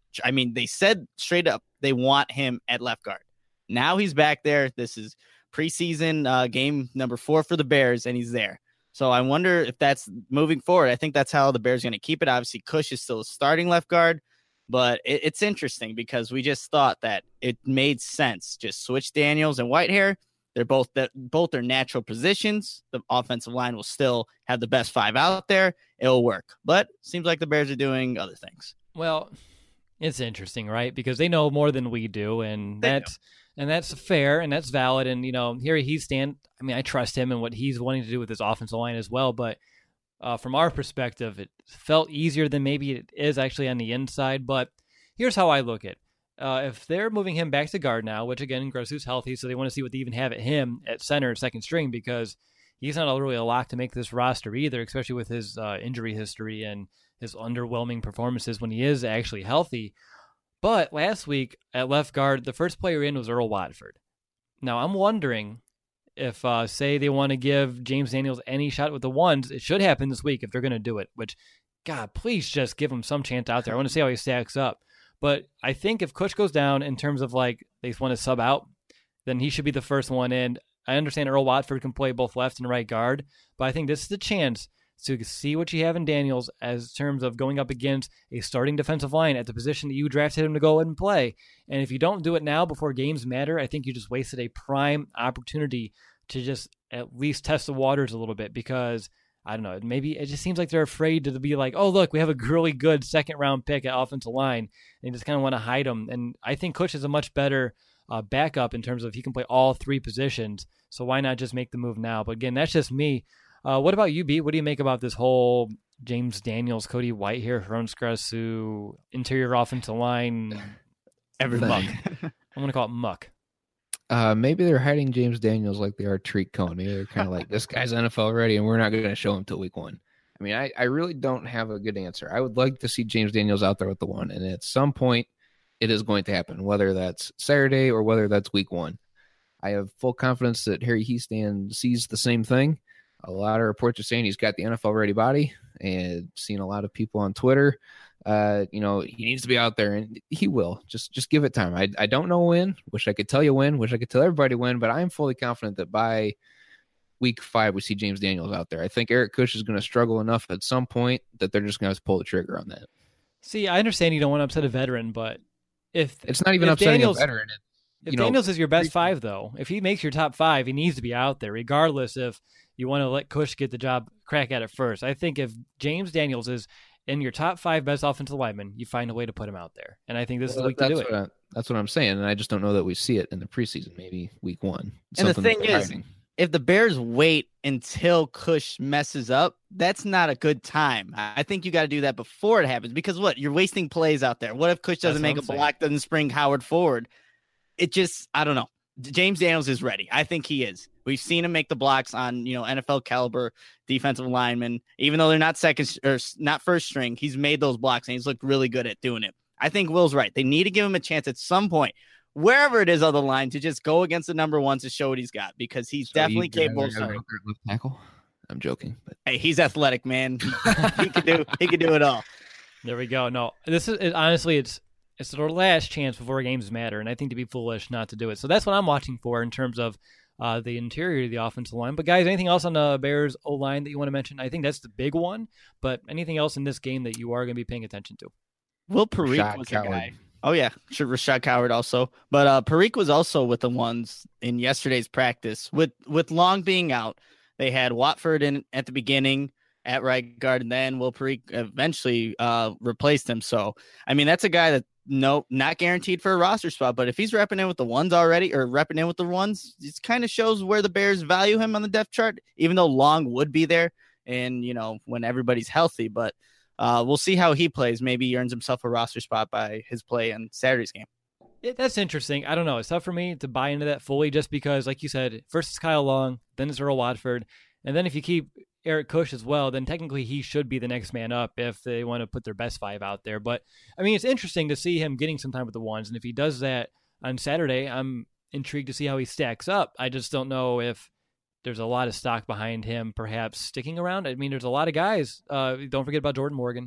I mean, they said straight up they want him at left guard. Now he's back there. This is preseason uh, game number four for the Bears, and he's there. So I wonder if that's moving forward. I think that's how the Bears are going to keep it. Obviously, Cush is still a starting left guard, but it, it's interesting because we just thought that it made sense. Just switch Daniels and Whitehair. They're both that both are natural positions. The offensive line will still have the best five out there. It'll work. But seems like the Bears are doing other things. Well, it's interesting, right? Because they know more than we do, and they that's know. and that's fair and that's valid. And you know, here he's stand. I mean, I trust him and what he's wanting to do with his offensive line as well. But uh, from our perspective, it felt easier than maybe it is actually on the inside. But here's how I look at it. Uh, if they're moving him back to guard now, which again, Grossu's healthy, so they want to see what they even have at him at center, second string, because he's not really a lock to make this roster either, especially with his uh, injury history and his underwhelming performances when he is actually healthy. But last week at left guard, the first player in was Earl Watford. Now I'm wondering if, uh, say, they want to give James Daniels any shot with the ones. It should happen this week if they're going to do it. Which, God, please just give him some chance out there. I want to see how he stacks up. But I think if Cush goes down in terms of like they want to sub out, then he should be the first one in. I understand Earl Watford can play both left and right guard, but I think this is the chance to see what you have in Daniels as terms of going up against a starting defensive line at the position that you drafted him to go and play. And if you don't do it now before games matter, I think you just wasted a prime opportunity to just at least test the waters a little bit, because I don't know, maybe it just seems like they're afraid to be like, oh, look, we have a really good second round pick at offensive line, and just kind of want to hide them. And I think Cush is a much better uh, backup in terms of he can play all three positions. So why not just make the move now? But again, that's just me. Uh, what about you, B? What do you make about this whole James Daniels, Cody Whitehair, Hrone Skrasu, interior offensive line, every muck? I'm going to call it muck. Uh, maybe they're hiding James Daniels like they are Tariq Cohen. Maybe they're kind of like, this guy's N F L ready, and we're not going to show him till week one. I mean, I, I really don't have a good answer. I would like to see James Daniels out there with the one, and at some point, it is going to happen, whether that's Saturday or whether that's week one. I have full confidence that Harry Hiestand sees the same thing. A lot of reports are saying he's got the N F L-ready body, and seen a lot of people on Twitter. Uh, you know, he needs to be out there, and he will. Just just give it time. I I don't know when. Wish I could tell you when. Wish I could tell everybody when, but I'm fully confident that by week five, we see James Daniels out there. I think Eric Cush is going to struggle enough at some point that they're just going to have to pull the trigger on that. See, I understand you don't want to upset a veteran, but if it's not even if upsetting Daniels, a veteran. It, if know, Daniels is your best five, though, if he makes your top five, he needs to be out there, regardless if you want to let Cush get the job, crack at it first. I think if James Daniels is in your top five best offensive linemen, you find a way to put him out there. And I think this well, is the week to do it. I, that's what I'm saying, and I just don't know that we see it in the preseason, maybe week one. And the thing is, hiding. If the Bears wait until Cush messes up, that's not a good time. I think you got to do that before it happens, because what? You're wasting plays out there. What if Cush doesn't make a saying. block, doesn't spring Howard forward? It just, I don't know. James Daniels is ready. I think he is. We've seen him make the blocks on, you know, N F L caliber defensive linemen. Even though they're not second or not first string, he's made those blocks and he's looked really good at doing it. I think Will's right. They need to give him a chance at some point, wherever it is on the line, to just go against the number one to show what he's got, because he's so definitely capable of starting. Left tackle. I'm joking, but hey, he's athletic, man. he can do he can do it all. There we go. No, this is it, honestly, it's it's their last chance before games matter, and I think to be foolish not to do it. So that's what I'm watching for in terms of uh, the interior of the offensive line. But guys, anything else on the Bears O-line that you want to mention? I think that's the big one. But anything else in this game that you are going to be paying attention to? Will Parikh was a guy. Oh, yeah. Sure, Rashad Coward also. But uh, Parikh was also with the ones in yesterday's practice. With with Long being out, they had Watford in at the beginning at right guard, and then Will Parikh eventually uh, replaced him. So, I mean, that's a guy that, no, not guaranteed for a roster spot. But if he's repping in with the ones already, or repping in with the ones, it kind of shows where the Bears value him on the depth chart, even though Long would be there and, you know, when everybody's healthy. But Uh, we'll see how he plays. Maybe he earns himself a roster spot by his play in Saturday's game. Yeah, that's interesting. I don't know. It's tough for me to buy into that fully, just because, like you said, first it's Kyle Long, then it's Earl Watford. And then if you keep Eric Cush as well, then technically he should be the next man up if they want to put their best five out there. But, I mean, it's interesting to see him getting some time with the ones. And if he does that on Saturday, I'm intrigued to see how he stacks up. I just don't know if there's a lot of stock behind him perhaps sticking around. I mean, there's a lot of guys. Uh, don't forget about Jordan Morgan.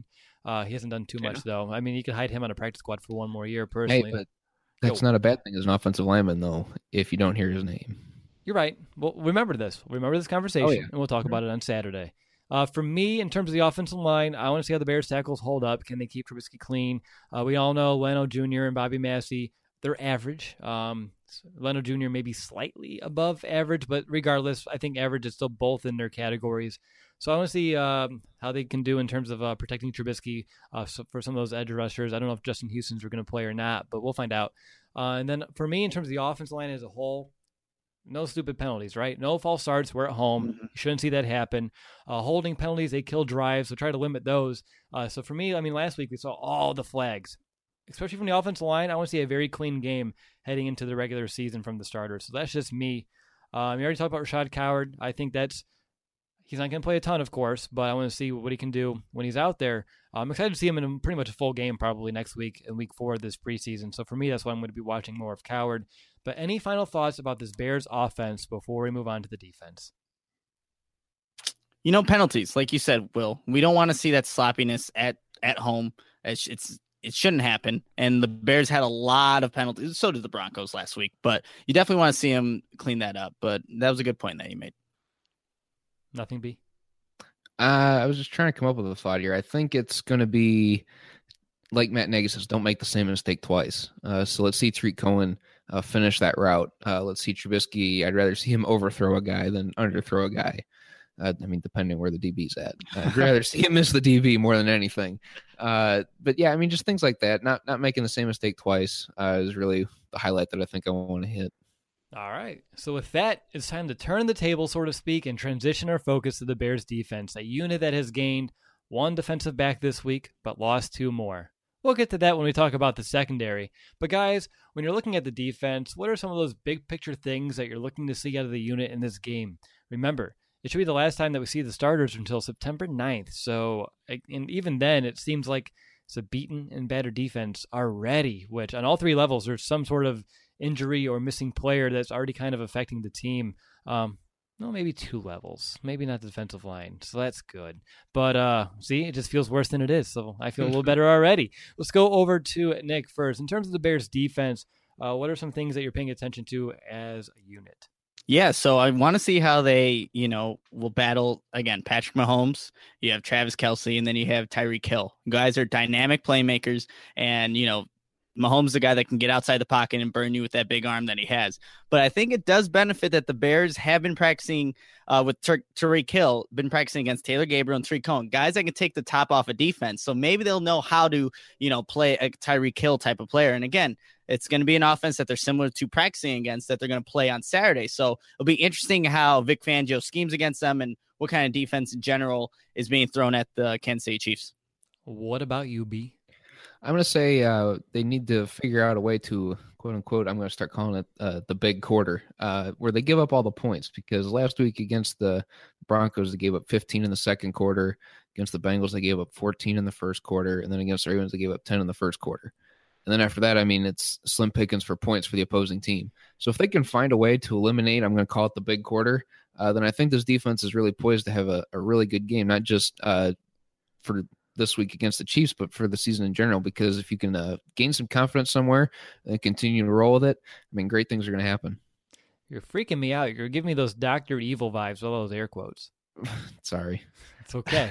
Uh, he hasn't done too much, Yeah. though. I mean, you could hide him on a practice squad for one more year, Hey, personally. but that's Yo. not a bad thing as an offensive lineman, though, if you don't hear his name. You're right. Well, remember this. Remember this conversation, Oh, yeah. and we'll talk about it on Saturday. Uh, for me, in terms of the offensive line, I want to see how the Bears tackles hold up. Can they keep Trubisky clean? Uh, we all know Leno Junior and Bobby Massey, they're average. Um, Leno Junior maybe slightly above average, but regardless, I think average is still both in their categories. So I want to see um, how they can do in terms of uh, protecting Trubisky uh, so for some of those edge rushers. I don't know if Justin Houston's going to play or not, but we'll find out. Uh, and then for me, in terms of the offensive line as a whole, no stupid penalties, right? No false starts. We're at home. Mm-hmm. You shouldn't see that happen. Uh, holding penalties, they kill drives, so try to limit those. Uh, so for me, I mean, last week we saw all the flags, especially from the offensive line. I want to see a very clean game heading into the regular season from the starters. So that's just me. Um, you already talked about Rashad Coward. I think that's he's not going to play a ton, of course, but I want to see what he can do when he's out there. I'm excited to see him in a, pretty much a full game probably next week in week four of this preseason. So for me, that's why I'm going to be watching more of Coward. But any final thoughts about this Bears offense before we move on to the defense? You know, penalties, like you said, Will, we don't want to see that sloppiness at, at home. It's, it's it shouldn't happen. And the Bears had a lot of penalties. So did the Broncos last week, but you definitely want to see them clean that up. But that was a good point that you made. Nothing, B? Uh, I was just trying to come up with a thought here. I think it's going to be like Matt Nagy says, don't make the same mistake twice. Uh, so let's see Tariq Cohen uh, finish that route. Uh, let's see Trubisky. I'd rather see him overthrow a guy than underthrow a guy. Uh, I mean, depending where the D B's at. I'd rather see him miss the D B more than anything. Uh, but yeah, I mean, just things like that. Not not making the same mistake twice uh, is really the highlight that I think I want to hit. All right. So with that, it's time to turn the table, so to speak, and transition our focus to the Bears defense, a unit that has gained one defensive back this week, but lost two more. We'll get to that when we talk about the secondary. But guys, when you're looking at the defense, what are some of those big picture things that you're looking to see out of the unit in this game? Remember, it should be the last time that we see the starters until September ninth. So, and even then, it seems like it's a beaten and battered defense already, which on all three levels, there's some sort of injury or missing player that's already kind of affecting the team. Um, no, maybe two levels, maybe not the defensive line. So that's good. But uh, see, it just feels worse than it is. So I feel a little better already. Let's go over to Nick first. In terms of the Bears defense, uh, what are some things that you're paying attention to as a unit? Yeah, so I want to see how they, you know, will battle, again, Patrick Mahomes, you have Travis Kelce, and then you have Tyreek Hill. Guys are dynamic playmakers, and, you know, Mahomes is the guy that can get outside the pocket and burn you with that big arm that he has. But I think it does benefit that the Bears have been practicing uh, with Tur- Tyreek Hill, been practicing against Taylor Gabriel and Tariq Cohen, guys that can take the top off of defense. So maybe they'll know how to, you know, play a Tyreek Hill type of player. And again, it's going to be an offense that they're similar to practicing against that they're going to play on Saturday. So it'll be interesting how Vic Fangio schemes against them and what kind of defense in general is being thrown at the Kansas City Chiefs. What about you, B? I'm going to say uh, they need to figure out a way to, quote unquote, I'm going to start calling it uh, the big quarter, uh, where they give up all the points. Because last week against the Broncos, they gave up fifteen in the second quarter. Against the Bengals, they gave up fourteen in the first quarter. And then against the Ravens, they gave up ten in the first quarter. And then after that, I mean, it's slim pickings for points for the opposing team. So if they can find a way to eliminate, I'm going to call it the big quarter, uh, then I think this defense is really poised to have a, a really good game, not just uh, for this week against the Chiefs, but for the season in general, because if you can uh, gain some confidence somewhere and continue to roll with it, I mean, great things are going to happen. You're freaking me out. You're giving me those Doctor Evil vibes, with all those air quotes. Sorry. It's okay.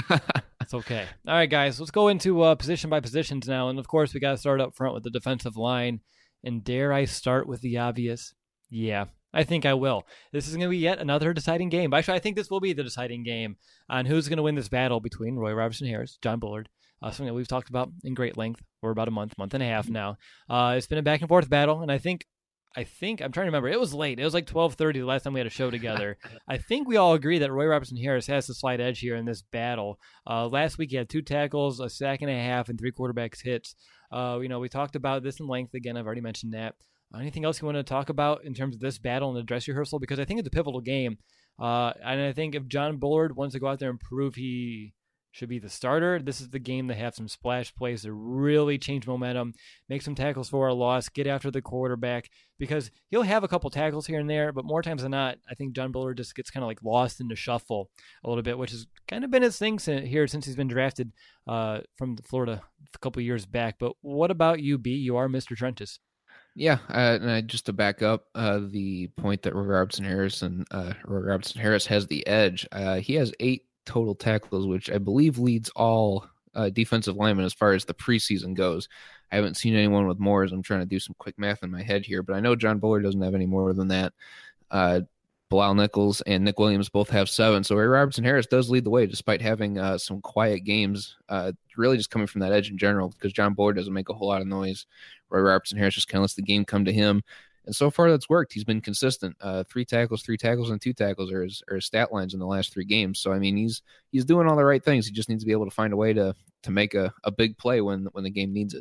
It's okay. All right, guys, let's go into uh, position by positions now. And of course, we got to start up front with the defensive line. And dare I start with the obvious? Yeah, I think I will. This is going to be yet another deciding game. Actually, I think this will be the deciding game on who's going to win this battle between Roy Robertson Harris, John Bullard, uh, something that we've talked about in great length for about a month, month and a half now. Uh, it's been a back and forth battle, and I think, I think, I'm trying to remember, it was late. It was like twelve thirty the last time we had a show together. I think we all agree that Roy Robertson Harris has the slight edge here in this battle. Uh, last week he had two tackles, a sack and a half, and three quarterbacks hits. Uh, you know, we talked about this in length. Again, I've already mentioned that. Anything else you want to talk about in terms of this battle and the dress rehearsal? Because I think it's a pivotal game. Uh, and I think if John Bullard wants to go out there and prove he should be the starter. This is the game to have some splash plays to really change momentum, make some tackles for a loss, get after the quarterback, because he'll have a couple tackles here and there, but more times than not, I think John Bullard just gets kind of like lost in the shuffle a little bit, which has kind of been his thing here since he's been drafted uh, from Florida a couple years back. But what about you, B? You are Mister Trenches. Yeah, uh, and I, just to back up uh, the point that Roy Robertson Harris and uh, Roy Robertson Harris has the edge. Uh, he has eight total tackles, which I believe leads all uh, defensive linemen as far as the preseason goes. I haven't seen anyone with more, as I'm trying to do some quick math in my head here, but I know John Bullard doesn't have any more than that. Uh, Bilal Nichols and Nick Williams both have seven. So Roy Robertson Harris does lead the way despite having uh, some quiet games, uh, really just coming from that edge in general, because John Bullard doesn't make a whole lot of noise. Roy Robertson Harris just kind of lets the game come to him. And so far that's worked. He's been consistent. Uh, three tackles, three tackles, and two tackles are his, are his stat lines in the last three games. So, I mean, he's he's doing all the right things. He just needs to be able to find a way to to make a, a big play when when the game needs it.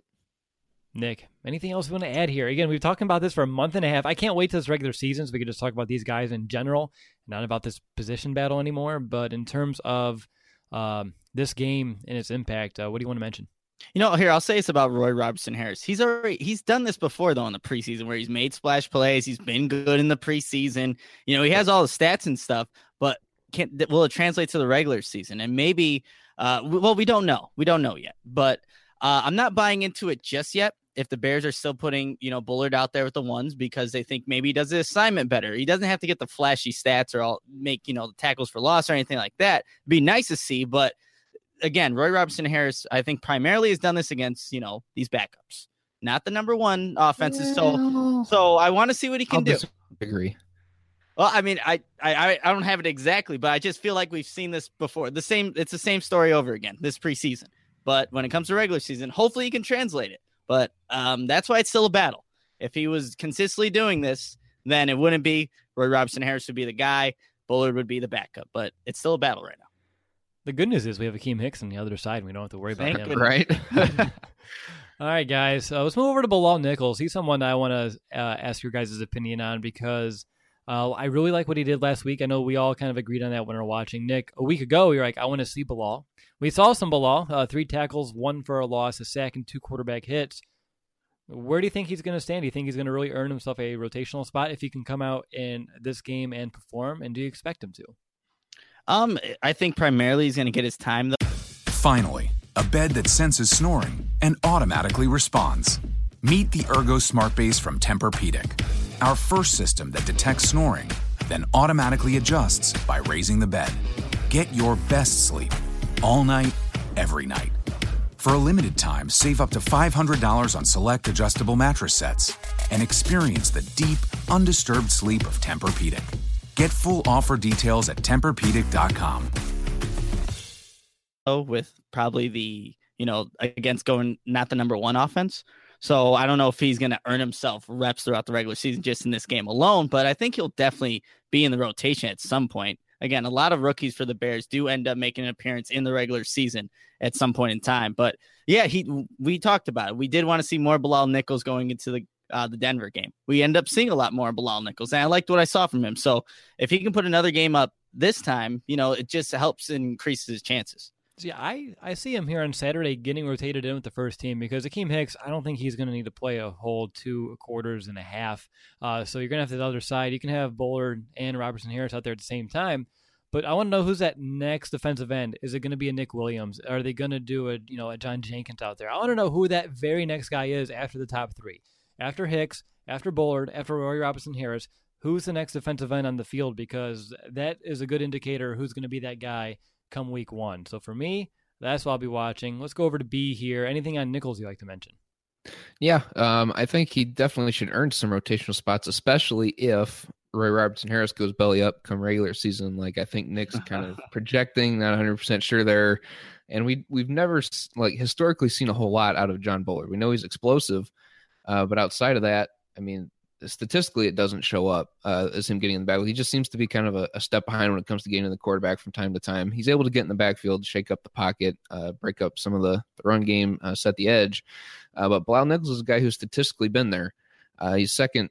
Nick, anything else you want to add here? Again, we've been talking about this for a month and a half. I can't wait till this regular season so we can just talk about these guys in general, not about this position battle anymore. But in terms of um, this game and its impact, uh, what do you want to mention? You know, here, I'll say this about Roy Robertson Harris. He's already, he's done this before, though, in the preseason where he's made splash plays. He's been good in the preseason. You know, he has all the stats and stuff, but can will it translate to the regular season? And maybe, uh, well, we don't know. We don't know yet, but uh, I'm not buying into it just yet. If the Bears are still putting, you know, Bullard out there with the ones because they think maybe he does the assignment better. He doesn't have to get the flashy stats or all make, you know, the tackles for loss or anything like that. It'd be nice to see, but again, Roy Robertson Harris, I think primarily has done this against, you know, these backups, not the number one offenses. So, so I want to see what he can I'll do. Agree. Well, I mean, I, I, I don't have it exactly, but I just feel like we've seen this before. The same, it's the same story over again this preseason. But when it comes to regular season, hopefully he can translate it. But um, that's why it's still a battle. If he was consistently doing this, then it wouldn't be. Roy Robertson Harris would be the guy. Bullard would be the backup. But it's still a battle right now. The good news is we have Akeem Hicks on the other side, and we don't have to worry Thank about him. Right. All right, guys. Uh, let's move over to Bilal Nichols. He's someone that I want to uh, ask your guys' opinion on because uh, I really like what he did last week. I know we all kind of agreed on that when we were watching. Nick, a week ago, you were like, I want to see Bilal. We saw some Bilal, uh, three tackles, one for a loss, a sack, and two quarterback hits. Where do you think he's going to stand? Do you think he's going to really earn himself a rotational spot if he can come out in this game and perform? And do you expect him to? Um, I think primarily he's going to get his time, though. Finally, a bed that senses snoring and automatically responds. Meet the Ergo Smart Base from Tempur-Pedic, our first system that detects snoring, then automatically adjusts by raising the bed. Get your best sleep all night, every night. For a limited time, save up to five hundred dollars on select adjustable mattress sets and experience the deep, undisturbed sleep of Tempur-Pedic. Get full offer details at Tempur Pedic dot com. With probably the, you know, against going not the number one offense. So I don't know if he's going to earn himself reps throughout the regular season just in this game alone, but I think he'll definitely be in the rotation at some point. Again, a lot of rookies for the Bears do end up making an appearance in the regular season at some point in time. But yeah, he we talked about it. We did want to see more Bilal Nichols going into the Uh, the Denver game. We end up seeing a lot more Bilal Nichols, and I liked what I saw from him. So if he can put another game up this time, you know, it just helps increase his chances. See, I, I see him here on Saturday getting rotated in with the first team because Akeem Hicks, I don't think he's going to need to play a whole two quarters and a half. Uh, so you're going to have the other side. You can have Bullard and Robertson Harris out there at the same time. But I want to know who's that next defensive end. Is it going to be a Nick Williams? Are they going to do a, you know, a John Jenkins out there? I want to know who that very next guy is after the top three. After Hicks, after Bullard, after Roy Robertson Harris, who's the next defensive end on the field? Because that is a good indicator who's going to be that guy come week one. So for me, that's what I'll be watching. Let's go over to B here. Anything on Nichols you like to mention? Yeah, um, I think he definitely should earn some rotational spots, especially if Roy Robertson Harris goes belly up come regular season. Like I think Nick's kind of projecting, not one hundred percent sure there. And we, we've never like historically seen a whole lot out of John Bullard. We know he's explosive. Uh, but outside of that, I mean, statistically, it doesn't show up uh, as him getting in the backfield. He just seems to be kind of a, a step behind when it comes to getting to the quarterback from time to time. He's able to get in the backfield, shake up the pocket, uh, break up some of the, the run game, uh, set the edge. Uh, but Bilal Nichols is a guy who's statistically been there. Uh, he's second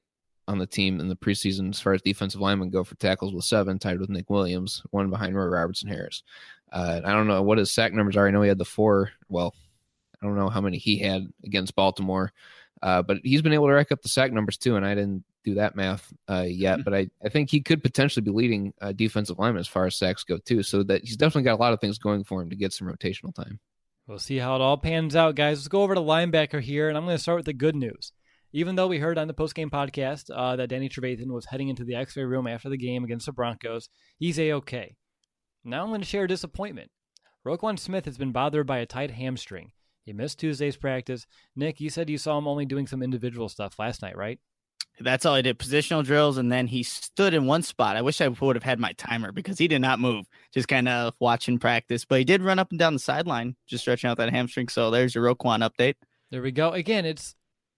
on the team in the preseason as far as defensive linemen go for tackles with seven, tied with Nick Williams, one behind Roy Robertson Harris. Uh, I don't know what his sack numbers are. I know he had the four. Well, I don't know how many he had against Baltimore, uh, but he's been able to rack up the sack numbers too, and I didn't do that math uh, yet, but I, I think he could potentially be leading uh, defensive linemen as far as sacks go too, so that he's definitely got a lot of things going for him to get some rotational time. We'll see how it all pans out, guys. Let's go over to linebacker here, and I'm going to start with the good news. Even though we heard on the postgame podcast uh, that Danny Trevathan was heading into the X-ray room after the game against the Broncos, he's A-okay. Now I'm going to share a disappointment. Roquan Smith has been bothered by a tight hamstring. He missed Tuesday's practice. Nick, you said you saw him only doing some individual stuff last night, right? That's all I did, positional drills, and then he stood in one spot. I wish I would have had my timer because he did not move, just kind of watching practice. But he did run up and down the sideline, just stretching out that hamstring. So there's your Roquan update. There we go. Again, it's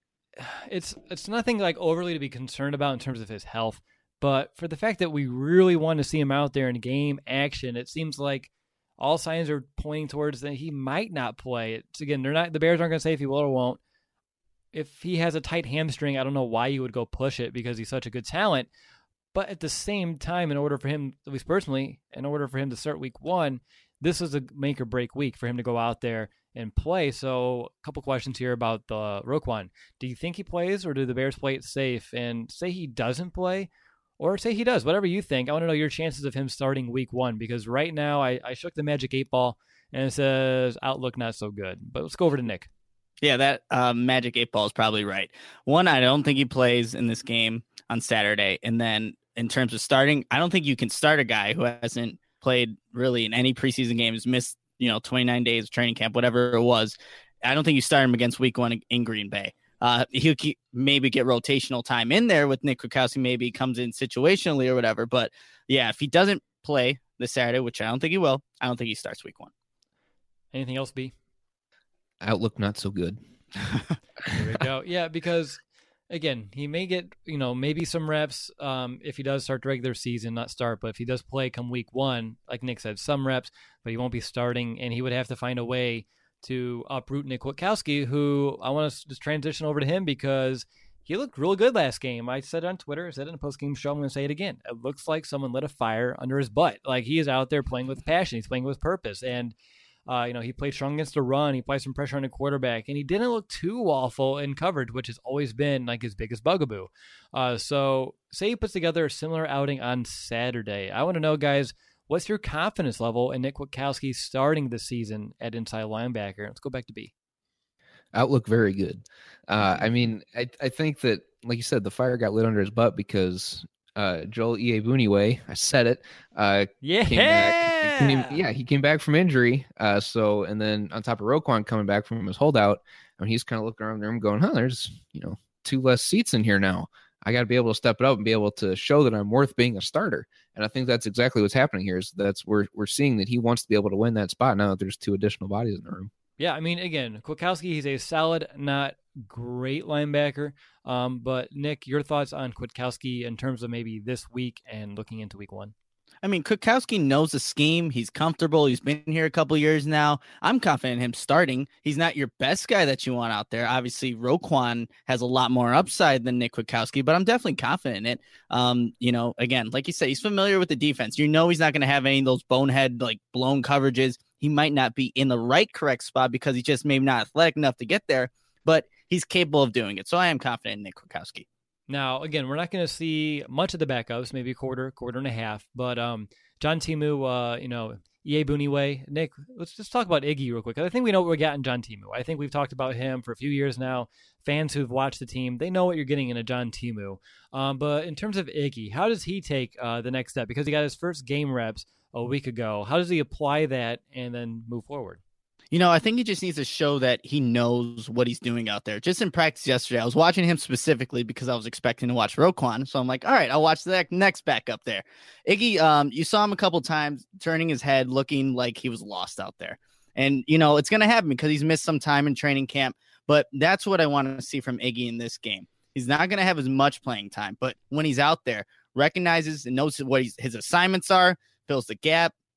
it's it's nothing like overly to be concerned about in terms of his health, but for the fact that we really want to see him out there in game action, it seems like all signs are pointing towards that he might not play. It's again, they're not the Bears aren't going to say if he will or won't. If he has a tight hamstring, I don't know why you would go push it because he's such a good talent. But at the same time, in order for him, at least personally, in order for him to start week one, this is a make or break week for him to go out there and play. So a couple questions here about the Roquan. Do you think he plays, or do the Bears play it safe and say he doesn't play, or say he does? Whatever you think. I want to know your chances of him starting week one, because right now I, I shook the magic eight ball and it says outlook not so good. But let's go over to Nick. Yeah, that uh, magic eight ball is probably right. One, I don't think he plays in this game on Saturday. And then in terms of starting, I don't think you can start a guy who hasn't played really in any preseason games, missed, you know, twenty-nine days of training camp, whatever it was. I don't think you start him against week one in Green Bay. Uh, he'll keep, maybe get rotational time in there with Nick Kwiatkowski, maybe he comes in situationally or whatever. But yeah, if he doesn't play this Saturday, which I don't think he will, I don't think he starts week one. Anything else, B? Outlook not so good. There we go. Yeah, because again, he may get, you know, maybe some reps um, if he does start the regular season, not start, but if he does play come week one, like Nick said, some reps, but he won't be starting, and he would have to find a way to uproot Nick Kwiatkowski, who I want to just transition over to him because he looked real good last game. I said it on Twitter, I said it in a post-game show, I'm going to say it again. It looks like someone lit a fire under his butt. Like, he is out there playing with passion. He's playing with purpose, and Uh, you know, he played strong against the run. He played some pressure on the quarterback, and he didn't look too awful in coverage, which has always been like his biggest bugaboo. Uh, so say he puts together a similar outing on Saturday. I want to know, guys, what's your confidence level in Nick Kwiatkowski starting the season at inside linebacker? Let's go back to B. Outlook very good. Uh, I mean, I, I think that, like you said, the fire got lit under his butt because uh, Joel Iyiegbuniwe, I said it, uh, yeah. came back. He came, yeah, he came back from injury. Uh, so, and then on top of Roquan coming back from his holdout, I mean, he's kind of looking around the room going, huh, there's, you know, two less seats in here now. I got to be able to step it up and be able to show that I'm worth being a starter. And I think that's exactly what's happening here is that's we're, we're seeing that he wants to be able to win that spot now that there's two additional bodies in the room. Yeah, I mean, again, Kwiatkowski, he's a solid, not great linebacker. Um, but, Nick, your thoughts on Kwiatkowski in terms of maybe this week and looking into week one? I mean, Kwiatkowski knows the scheme. He's comfortable. He's been here a couple years now. I'm confident in him starting. He's not your best guy that you want out there. Obviously, Roquan has a lot more upside than Nick Kwiatkowski, but I'm definitely confident in it. Um, you know, again, like you said, he's familiar with the defense. You know he's not going to have any of those bonehead, like, blown coverages. He might not be in the right correct spot because he's just maybe not athletic enough to get there, but he's capable of doing it. So I am confident in Nick Kwiatkowski. Now, again, we're not going to see much of the backups, maybe a quarter, quarter and a half. But um, John Timu, uh, you know, Iyiegbuniwe, Nick, let's just talk about Iggy real quick. I think we know what we got in John Timu. I think we've talked about him for a few years now. Fans who've watched the team, they know what you're getting in a John Timu. Um, but in terms of Iggy, how does he take uh, the next step? Because he got his first game reps a week ago. How does he apply that and then move forward? You know, I think he just needs to show that he knows what he's doing out there. Just in practice yesterday, I was watching him specifically because I was expecting to watch Roquan. So I'm like, all right, I'll watch the next back up there. Iggy, um, you saw him a couple times turning his head, looking like he was lost out there. And, you know, it's going to happen because he's missed some time in training camp. But that's what I want to see from Iggy in this game. He's not going to have as much playing time. But when he's out there, recognizes and knows what he's, his assignments are, fills the gap,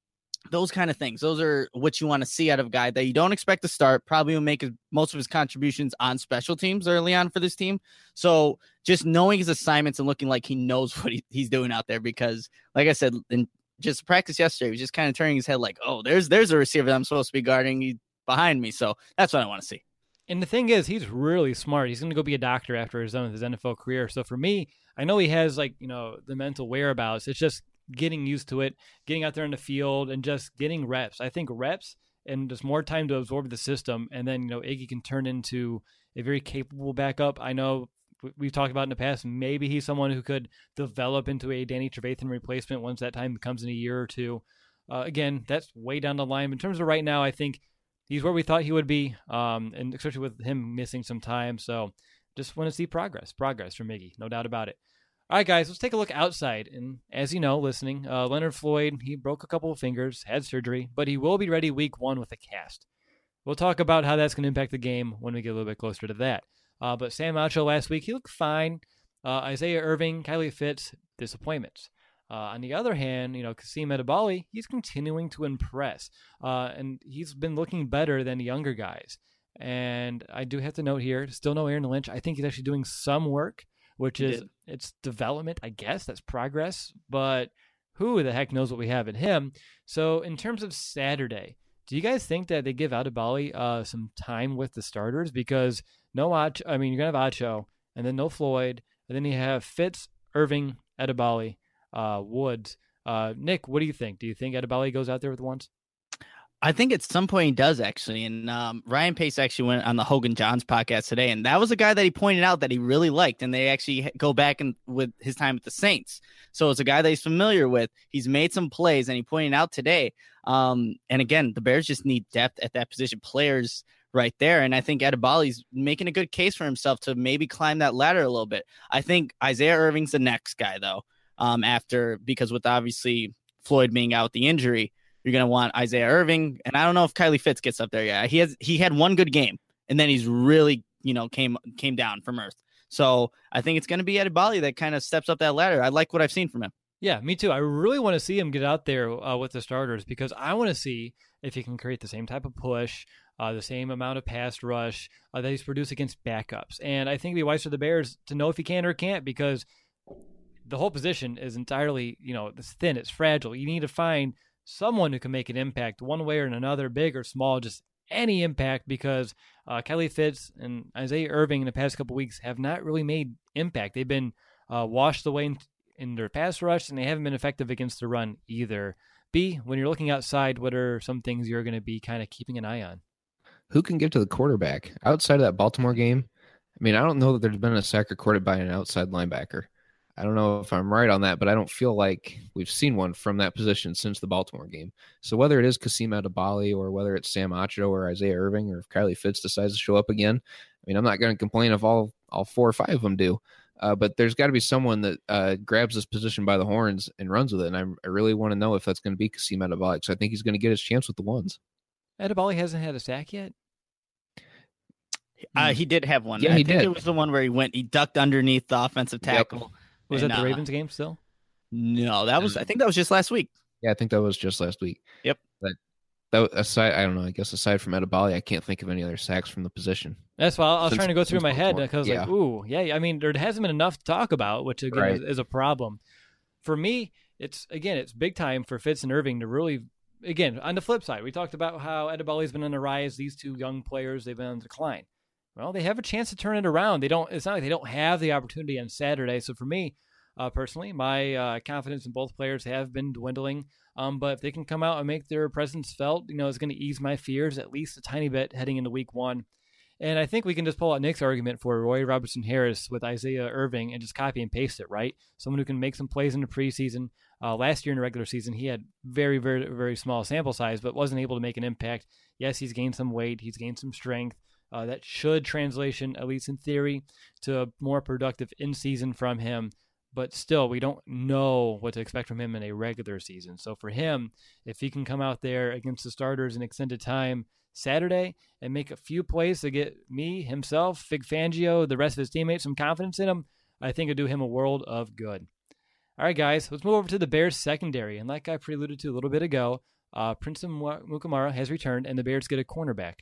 Those kind of things. Those are what you want to see out of a guy that you don't expect to start. Probably will make his, most of his contributions on special teams early on for this team. So just knowing his assignments and looking like he knows what he, he's doing out there, because like I said, in just practice yesterday, he was just kind of turning his head like, oh, there's there's a receiver that I'm supposed to be guarding. He's behind me. So that's what I want to see. And the thing is, he's really smart. He's going to go be a doctor after he's done with his N F L career. So for me, I know he has like, you know, the mental whereabouts. It's just getting used to it, getting out there in the field and just getting reps. I think reps and just more time to absorb the system. And then, you know, Iggy can turn into a very capable backup. I know we've talked about in the past, maybe he's someone who could develop into a Danny Trevathan replacement once that time comes in a year or two. Uh, again, that's way down the line. In terms of right now, I think he's where we thought he would be, um, and especially with him missing some time. So just want to see progress, progress from Iggy, no doubt about it. All right, guys, let's take a look outside. And as you know, listening, uh, Leonard Floyd, he broke a couple of fingers, had surgery, but he will be ready week one with a cast. We'll talk about how that's going to impact the game when we get a little bit closer to that. Uh, but Sam Acho last week, he looked fine. Uh, Isaiah Irving, Kylie Fitz, disappointments. Uh, on the other hand, you know, Kasim Edebali, he's continuing to impress. Uh, and he's been looking better than the younger guys. And I do have to note here, still no Aaron Lynch. I think he's actually doing some work, which is did. It's development, I guess. That's progress. But who the heck knows what we have in him? So in terms of Saturday, do you guys think that they give Edebali uh, some time with the starters? Because no Acho, I mean, you're going to have Acho, and then no Floyd, and then you have Fitz, Irving, Edebali, uh, Woods. Uh, Nick, what do you think? Do you think Edebali goes out there with the ones? I think at some point he does, actually. And um, Ryan Pace actually went on the Hogan Johns podcast today, and that was a guy that he pointed out that he really liked. And they actually go back and with his time with the Saints. So it's a guy that he's familiar with. He's made some plays, and he pointed out today. Um, and again, the Bears just need depth at that position, players right there. And I think Edebali's making a good case for himself to maybe climb that ladder a little bit. I think Isaiah Irving's the next guy, though, um, after because with obviously Floyd being out with the injury, you're going to want Isaiah Irving. And I don't know if Kylie Fitz gets up there yet. He has, he had one good game, and then he's really, you know, came, came down from earth. So I think it's going to be Edebali that kind of steps up that ladder. I like what I've seen from him. Yeah, me too. I really want to see him get out there uh, with the starters, because I want to see if he can create the same type of push, uh, the same amount of pass rush uh, that he's produced against backups. And I think it'd be wise for the Bears to know if he can or can't, because the whole position is entirely, you know, it's thin, it's fragile. You need to find someone who can make an impact one way or another, big or small, just any impact, because uh, Kylie Fitz and Isaiah Irving in the past couple weeks have not really made impact. They've been uh, washed away in, in their pass rush, and they haven't been effective against the run either. B, when you're looking outside, what are some things you're going to be kind of keeping an eye on? Who can get to the quarterback outside of that Baltimore game? I mean, I don't know that there's been a sack recorded by an outside linebacker. I don't know if I'm right on that, but I don't feel like we've seen one from that position since the Baltimore game. So whether it is Kasim Edebali or whether it's Sam Acho or Isaiah Irving, or if Kylie Fitz decides to show up again, I mean, I'm not going to complain if all, all four or five of them do. Uh, but there's got to be someone that uh, grabs this position by the horns and runs with it. And I, I really want to know if that's going to be Kasim Edebali, because I think he's going to get his chance with the ones. Edebali hasn't had a sack yet? Uh, he did have one. Yeah, I he think did. It was the one where he went, he ducked underneath the offensive tackle. Yep. Was and, that the uh, Ravens game still? No, that was, I think that was just last week. Yeah, I think that was just last week. Yep. But that aside, I don't know. I guess aside from Edebali, I can't think of any other sacks from the position. That's why I was Since- trying to go through since my head, Baltimore. because Yeah. like, ooh, yeah. I mean, there hasn't been enough to talk about, which again Right. is, is a problem. For me, it's again, it's big time for Fitz and Irving to really, again, on the flip side, we talked about how Edebali's been on the rise. These two young players, they've been on decline. Well, they have a chance to turn it around. They don't. It's not like they don't have the opportunity on Saturday. So for me, uh, personally, my uh, confidence in both players have been dwindling. Um, but if they can come out and make their presence felt, you know, it's going to ease my fears at least a tiny bit heading into week one. And I think we can just pull out Nick's argument for Roy Robertson Harris with Isaiah Irving and just copy and paste it, right? Someone who can make some plays in the preseason. Uh, last year in the regular season, he had very, very, very small sample size, but wasn't able to make an impact. Yes, he's gained some weight. He's gained some strength. Uh, that should translation, at least in theory, to a more productive in-season from him. But still, we don't know what to expect from him in a regular season. So for him, if he can come out there against the starters in extended time Saturday and make a few plays to get me, himself, Fig Fangio, the rest of his teammates some confidence in him, I think it'd do him a world of good. All right, guys, let's move over to the Bears secondary. And like I preluded to a little bit ago, Uh, Prince Mukamara has returned, and the Bears get a cornerback.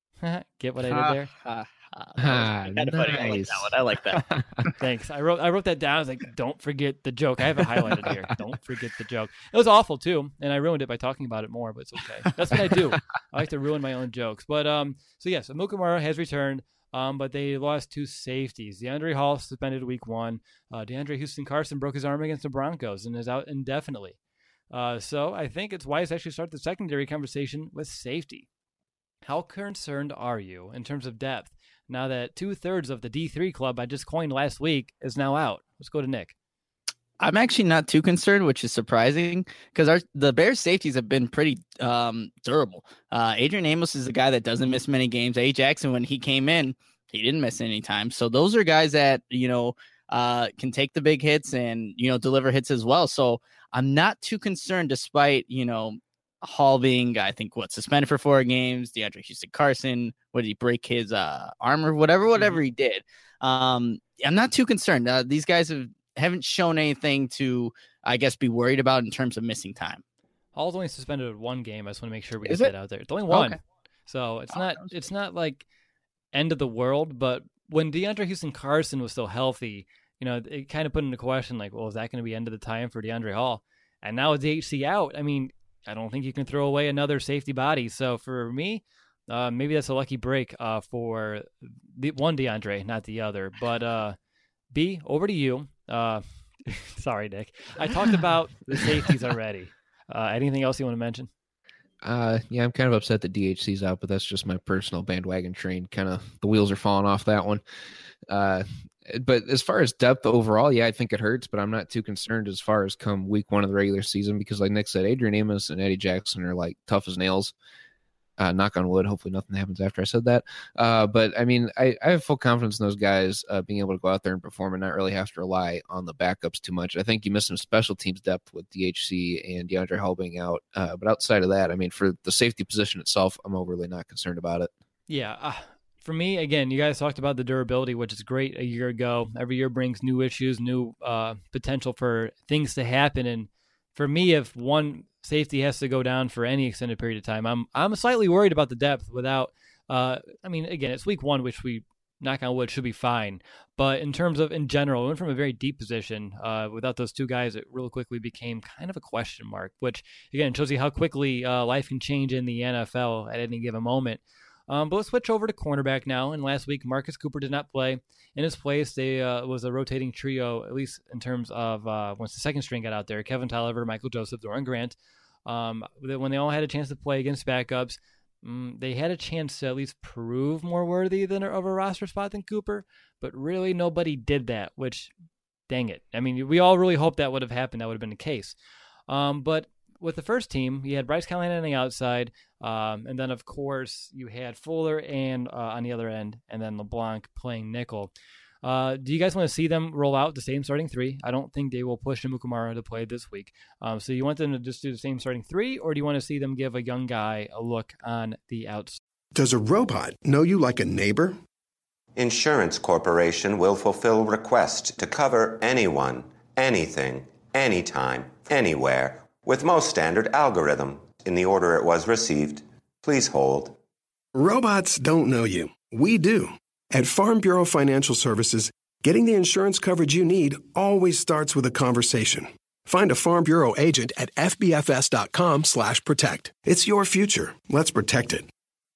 Get what I did there? Ha, ha, ha. Ah, nice. I like that one. I like that. Thanks. I wrote I wrote that down. I was like, don't forget the joke. I have it highlighted here. Don't forget the joke. It was awful too, and I ruined it by talking about it more, but it's okay. That's what I do. I like to ruin my own jokes. But um, so yes, yeah, so Mukamara has returned. Um, but they lost two safeties. DeAndre Hall suspended week one. Uh, DeAndre Houston Carson broke his arm against the Broncos and is out indefinitely. Uh, so I think it's wise to actually start the secondary conversation with safety. How concerned are you in terms of depth now that two-thirds of the D three club I just coined last week is now out? Let's go to Nick. I'm actually not too concerned, which is surprising because our the Bears safeties have been pretty um, durable. Uh, Adrian Amos is a guy that doesn't miss many games. A. Jackson, when he came in, he didn't miss any time. So those are guys that, you know, uh, can take the big hits and, you know, deliver hits as well. So I'm not too concerned despite, you know, Hall being, I think, what, suspended for four games. DeAndre Houston Carson, what did he break his uh, arm or whatever, whatever mm-hmm. he did. Um, I'm not too concerned. Uh, these guys have, haven't shown anything to, I guess, be worried about in terms of missing time. Hall's only suspended one game. I just want to make sure we Is get it? that out there. It's only one. Okay. So it's oh, not it's not like end of the world, but when DeAndre Houston Carson was still healthy, you know, it kind of put into question, like, well, is that going to be end of the time for DeAndre Hall? And now with D H C out, I mean, I don't think you can throw away another safety body. So for me, uh, maybe that's a lucky break uh, for the one DeAndre, not the other. But uh, B, over to you. Uh, sorry, Nick. I talked about the safeties already. Uh, anything else you want to mention? Uh, yeah, I'm kind of upset that D H C's out, but that's just my personal bandwagon train. Kind of the wheels are falling off that one. Uh, but as far as depth overall, yeah, I think it hurts, but I'm not too concerned as far as come week one of the regular season because, like Nick said, Adrian Amos and Eddie Jackson are like tough as nails. Uh, knock on wood. Hopefully nothing happens after I said that. Uh, but I mean, I, I have full confidence in those guys uh, being able to go out there and perform and not really have to rely on the backups too much. I think you miss some special teams depth with D H C and DeAndre Hall being out. Uh, but outside of that, I mean, for the safety position itself, I'm overly not concerned about it. Yeah. Uh, for me, again, you guys talked about the durability, which is great a year ago. Every year brings new issues, new uh, potential for things to happen. And for me, if one safety has to go down for any extended period of time, I'm I'm slightly worried about the depth without, uh, I mean, again, it's week one, which we, knock on wood, should be fine. But in terms of, in general, we went from a very deep position. Uh, without those two guys, it real quickly became kind of a question mark, which, again, shows you how quickly uh, life can change in the N F L at any given moment. Um, but let's switch over to cornerback now. And last week, Marcus Cooper did not play. In his place, they uh, was a rotating trio, at least in terms of uh, once the second string got out there, Kevin Tolliver, Michael Joseph, Doran Grant. Um, when they all had a chance to play against backups, um, they had a chance to at least prove more worthy than of a roster spot than Cooper. But really, nobody did that, which, dang it. I mean, we all really hoped that would have happened. That would have been the case. Um, but with the first team, you had Bryce Callahan on the outside, um, and then, of course, you had Fuller and uh, on the other end, and then LeBlanc playing nickel. Uh, do you guys want to see them roll out the same starting three? I don't think they will push Mukamara to play this week. Um, so you want them to just do the same starting three, or do you want to see them give a young guy a look on the outside? Does a robot know you like a neighbor? Insurance Corporation will fulfill requests to cover anyone, anything, anytime, anywhere, with most standard algorithm in the order it was received. Please hold. Robots don't know you. We do. At Farm Bureau Financial Services, getting the insurance coverage you need always starts with a conversation. Find a Farm Bureau agent at fbfs.com slash protect. It's your future. Let's protect it.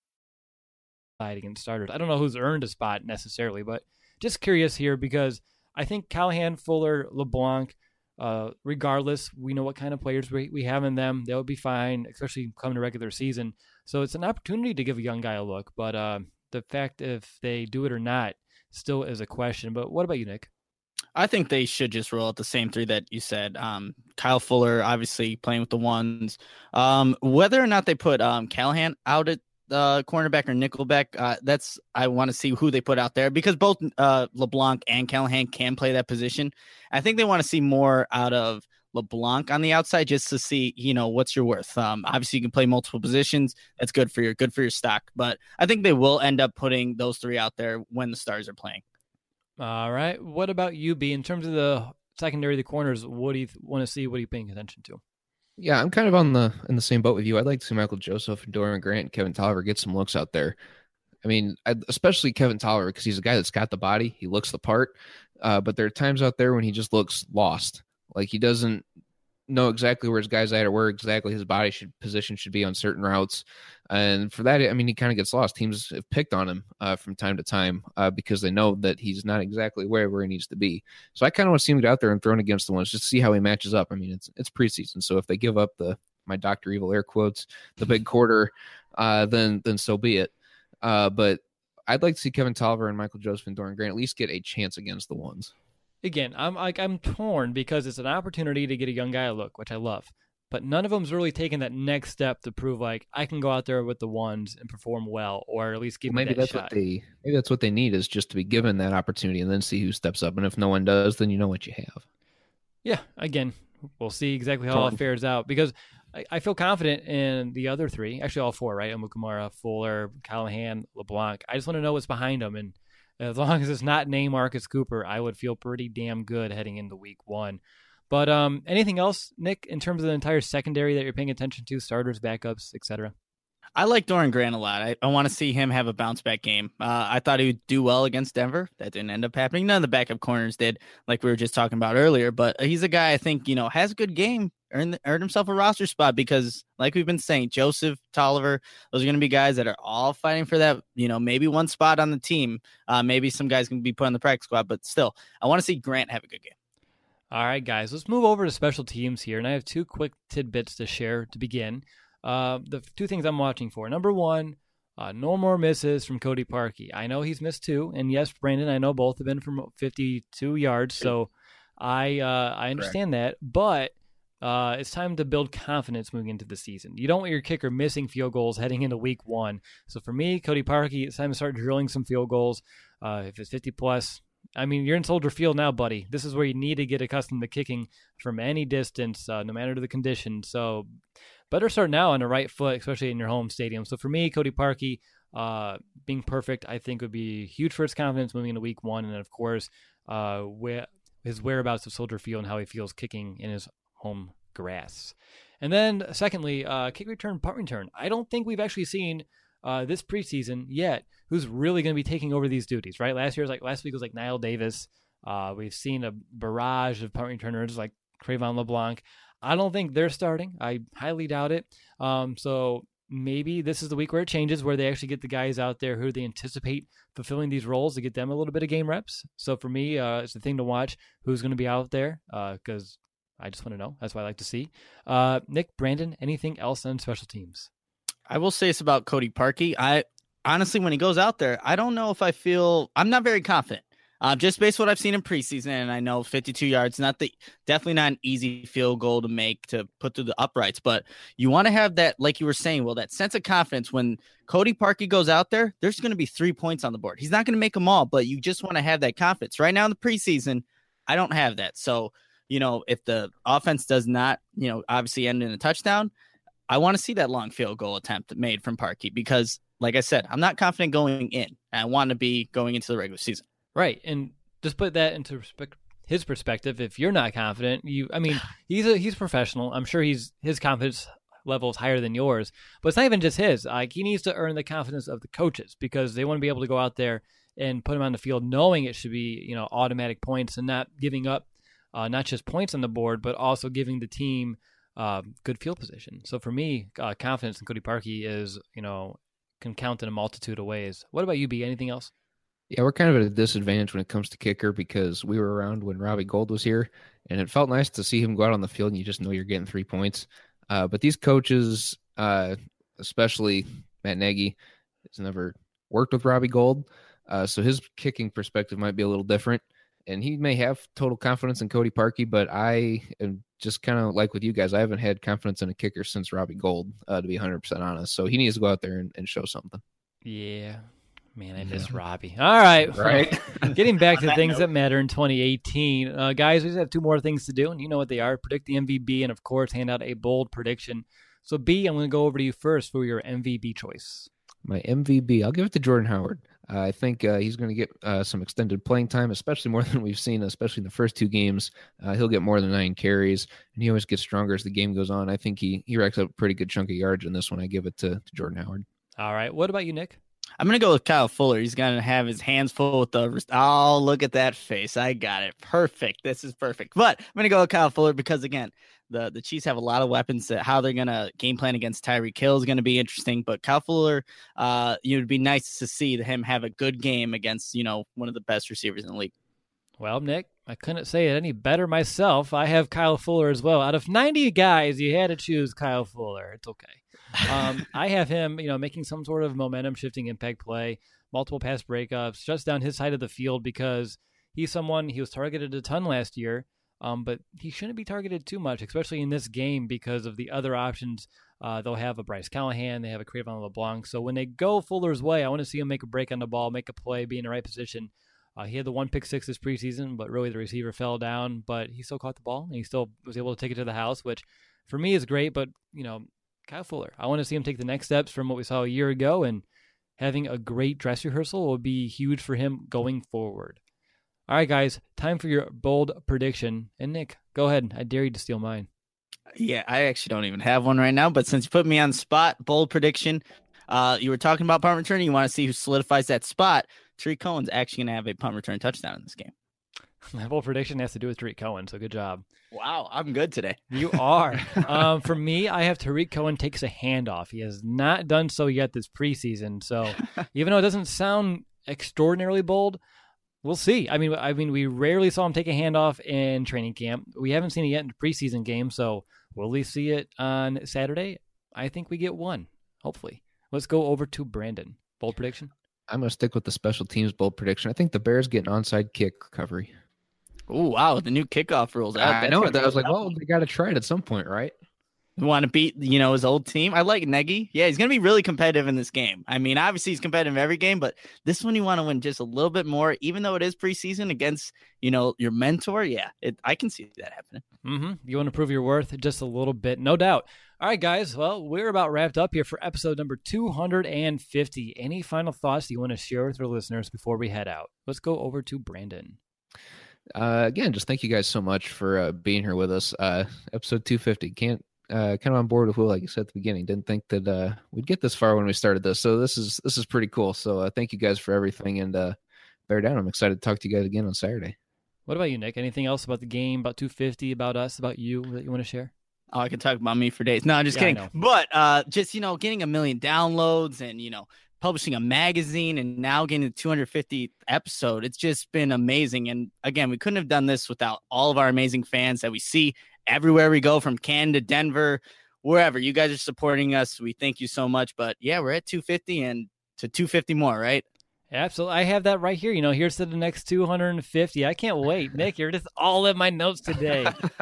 Against starters. I don't know who's earned a spot necessarily, but just curious here because I think Callahan, Fuller, LeBlanc, Uh, regardless, we know what kind of players we, we have in them. They'll be fine, especially coming to regular season. So it's an opportunity to give a young guy a look. But uh, the fact if they do it or not still is a question. But what about you, Nick? I think they should just roll out the same three that you said. Um, Kyle Fuller, obviously playing with the ones. Um, whether or not they put um, Callahan out at uh, cornerback or nickelback, uh, that's I want to see who they put out there because both uh, LeBlanc and Callahan can play that position. I think they want to see more out of LeBlanc on the outside just to see, you know, what's your worth. Um, obviously, you can play multiple positions. That's good for your good for your stock. But I think they will end up putting those three out there when the Stars are playing. All right. What about you, B? In terms of the secondary, the corners, what do you th- want to see? What are you paying attention to? Yeah, I'm kind of on the in the same boat with you. I'd like to see Michael Joseph and Dorian Grant and Kevin Tolliver get some looks out there. I mean, I, especially Kevin Tolliver, because he's a guy that's got the body. He looks the part. Uh, but there are times out there when he just looks lost. Like he doesn't know exactly where his guy's at or where exactly his body should position should be on certain routes. And for that, I mean, he kind of gets lost. Teams have picked on him uh, from time to time uh, because they know that he's not exactly wherever he needs to be. So I kind of want to see him get out there and thrown against the ones just to see how he matches up. I mean, it's it's preseason. So if they give up the, my Doctor Evil air quotes, the big quarter, uh, then then so be it. Uh, but I'd like to see Kevin Tolliver and Michael Joseph and Dorian Grant at least get a chance against the ones. Again, I'm like I'm torn because it's an opportunity to get a young guy a look, which I love. But none of them's really taken that next step to prove like I can go out there with the ones and perform well, or at least give well, me maybe that that's shot. what they maybe that's what they need is just to be given that opportunity and then see who steps up. And if no one does, then you know what you have. Yeah, again, we'll see exactly how it fares out because I, I feel confident in the other three, actually all four, right? Amukamara, Fuller, Callahan, LeBlanc. I just want to know what's behind them, and as long as it's not named Marcus Cooper, I would feel pretty damn good heading into week one. But um, anything else, Nick, in terms of the entire secondary that you're paying attention to, starters, backups, et cetera? I like Dorian Grant a lot. I, I want to see him have a bounce back game. Uh, I thought he would do well against Denver. That didn't end up happening. None of the backup corners did, like we were just talking about earlier. But he's a guy I think, you know, has a good game, earned, earned himself a roster spot because, like we've been saying, Joseph, Tolliver, those are going to be guys that are all fighting for that, you know, maybe one spot on the team. Uh, maybe some guys can be put on the practice squad, but still, I want to see Grant have a good game. All right, guys, let's move over to special teams here. And I have two quick tidbits to share to begin. Uh, the two things I'm watching for. Number one, uh, no more misses from Cody Parkey. I know he's missed two. And yes, Brandon, I know both have been from fifty-two yards. So I uh, I understand Correct. that. But uh, it's time to build confidence moving into the season. You don't want your kicker missing field goals heading into week one. So for me, Cody Parkey, it's time to start drilling some field goals. Uh, if it's fifty plus, I mean, you're in Soldier Field now, buddy. This is where you need to get accustomed to kicking from any distance, uh, no matter the condition. So better start now on the right foot, especially in your home stadium. So for me, Cody Parkey uh, being perfect, I think would be huge for his confidence moving into week one. And then, of course, uh, where, his whereabouts of Soldier Field and how he feels kicking in his home grass. And then secondly, uh, kick return, punt return. I don't think we've actually seen uh, this preseason yet who's really going to be taking over these duties, right? Last year was like last week was like Niall Davis. Uh, we've seen a barrage of punt returners like Trayvon LeBlanc. I don't think they're starting. I highly doubt it. Um, so maybe this is the week where it changes, where they actually get the guys out there who they anticipate fulfilling these roles to get them a little bit of game reps. So for me, uh, it's the thing to watch who's going to be out there because uh, I just want to know. That's what I like to see. Uh, Nick, Brandon, anything else on special teams? I will say this about Cody Parkey. I honestly, when he goes out there, I don't know if I feel I'm not very confident. Uh, just based on what I've seen in preseason, and I know fifty-two yards, not the definitely not an easy field goal to make to put through the uprights, but you want to have that, like you were saying, well, that sense of confidence when Cody Parkey goes out there. There's going to be three points on the board. He's not going to make them all, but you just want to have that confidence. Right now in the preseason, I don't have that. So, you know, if the offense does not, you know, obviously end in a touchdown, I want to see that long field goal attempt made from Parkey because, like I said, I'm not confident going in. I want to be going into the regular season. Right, and just put that into respect, his perspective. If you're not confident, you, I mean, he's a he's professional. I'm sure he's his confidence level is higher than yours, but it's not even just his. Like he needs to earn the confidence of the coaches because they want to be able to go out there and put him on the field, knowing it should be you know automatic points and not giving up uh, not just points on the board, but also giving the team uh, good field position. So for me, uh, confidence in Cody Parkey is you know can count in a multitude of ways. What about you, B? Anything else? Yeah, we're kind of at a disadvantage when it comes to kicker because we were around when Robbie Gould was here, and it felt nice to see him go out on the field and you just know you're getting three points. Uh, but these coaches, uh, especially Matt Nagy, has never worked with Robbie Gould, uh, so his kicking perspective might be a little different. And he may have total confidence in Cody Parkey, but I am just kind of like with you guys. I haven't had confidence in a kicker since Robbie Gould, uh, to be one hundred percent honest. So he needs to go out there and, and show something. Yeah. Man, I miss Robbie. All right. Right. Getting back to the things that matter in twenty eighteen. Uh, guys, we just have two more things to do, and you know what they are. Predict the M V B and, of course, hand out a bold prediction. So, B, I'm going to go over to you first for your M V B choice. My M V B, I'll give it to Jordan Howard. Uh, I think uh, he's going to get uh, some extended playing time, especially more than we've seen, especially in the first two games. Uh, he'll get more than nine carries, and he always gets stronger as the game goes on. I think he, he racks up a pretty good chunk of yards in this one. I give it to, to Jordan Howard. All right. What about you, Nick? I'm going to go with Kyle Fuller. He's going to have his hands full with the – oh, look at that face. I got it. Perfect. This is perfect. But I'm going to go with Kyle Fuller because, again, the, the Chiefs have a lot of weapons. That how they're going to game plan against Tyreek Hill is going to be interesting. But Kyle Fuller, uh, it would be nice to see him have a good game against, you know, one of the best receivers in the league. Well, Nick, I couldn't say it any better myself. I have Kyle Fuller as well. Out of ninety guys, you had to choose Kyle Fuller. It's okay. Um, I have him, you know, making some sort of momentum-shifting impact play, multiple pass breakups, shuts down his side of the field because he's someone, he was targeted a ton last year, um, but he shouldn't be targeted too much, especially in this game because of the other options. Uh, they'll have a Bryce Callahan, they have a Cre'Von LeBlanc. So when they go Fuller's way, I want to see him make a break on the ball, make a play, be in the right position. Uh, he had the one pick six this preseason, but really the receiver fell down, but he still caught the ball and he still was able to take it to the house, which for me is great, but, you know, Kyle Fuller, I want to see him take the next steps from what we saw a year ago, and having a great dress rehearsal will be huge for him going forward. All right, guys, time for your bold prediction. And Nick, go ahead. I dare you to steal mine. Yeah, I actually don't even have one right now, but since you put me on the spot, bold prediction, uh, you were talking about punt return. You want to see who solidifies that spot. Tariq Cohen's actually going to have a punt return touchdown in this game. My bold prediction has to do with Tariq Cohen, so good job. Wow, I'm good today. You are. um, for me, I have Tariq Cohen takes a handoff. He has not done so yet this preseason. So even though it doesn't sound extraordinarily bold, we'll see. I mean, I mean, we rarely saw him take a handoff in training camp. We haven't seen it yet in the preseason game. So will we see it on Saturday? I think we get one, hopefully. Let's go over to Brandon. Bold prediction? I'm going to stick with the special teams bold prediction. I think the Bears get an onside kick recovery. Oh, wow. The new kickoff rules. I, I know it. I was like, well, they got to try it at some point, right? You want to beat, you know, his old team? I like Nagy. Yeah, he's going to be really competitive in this game. I mean, obviously he's competitive every game, but this one you want to win just a little bit more, even though it is preseason against, you know, your mentor. Yeah, it, I can see that happening. Mm-hmm. You want to prove your worth just a little bit, no doubt. All right, guys. Well, we're about wrapped up here for episode number two hundred fifty. Any final thoughts you want to share with our listeners before we head out? Let's go over to Brandon. Uh, again, just thank you guys so much for uh, being here with us. Uh, episode two hundred fifty. Can't uh, kind of on board with Will, like you said at the beginning. Didn't think that uh, we'd get this far when we started this. So this is this is pretty cool. So uh, thank you guys for everything, and uh, bear down. I'm excited to talk to you guys again on Saturday. What about you, Nick? Anything else about the game, about two fifty, about us, about you that you want to share? Oh, I can talk about me for days. No, I'm just yeah, kidding. But uh, just, you know, getting a million downloads and, you know, publishing a magazine and now getting the two hundred fiftieth episode. It's just been amazing. And again, we couldn't have done this without all of our amazing fans that we see everywhere we go, from Canada, Denver, wherever. You guys are supporting us. We thank you so much. But yeah, we're at two fifty and to two fifty more, right? Absolutely. I have that right here. You know, here's to the next two hundred fifty. I can't wait. Nick, you're just all in my notes today.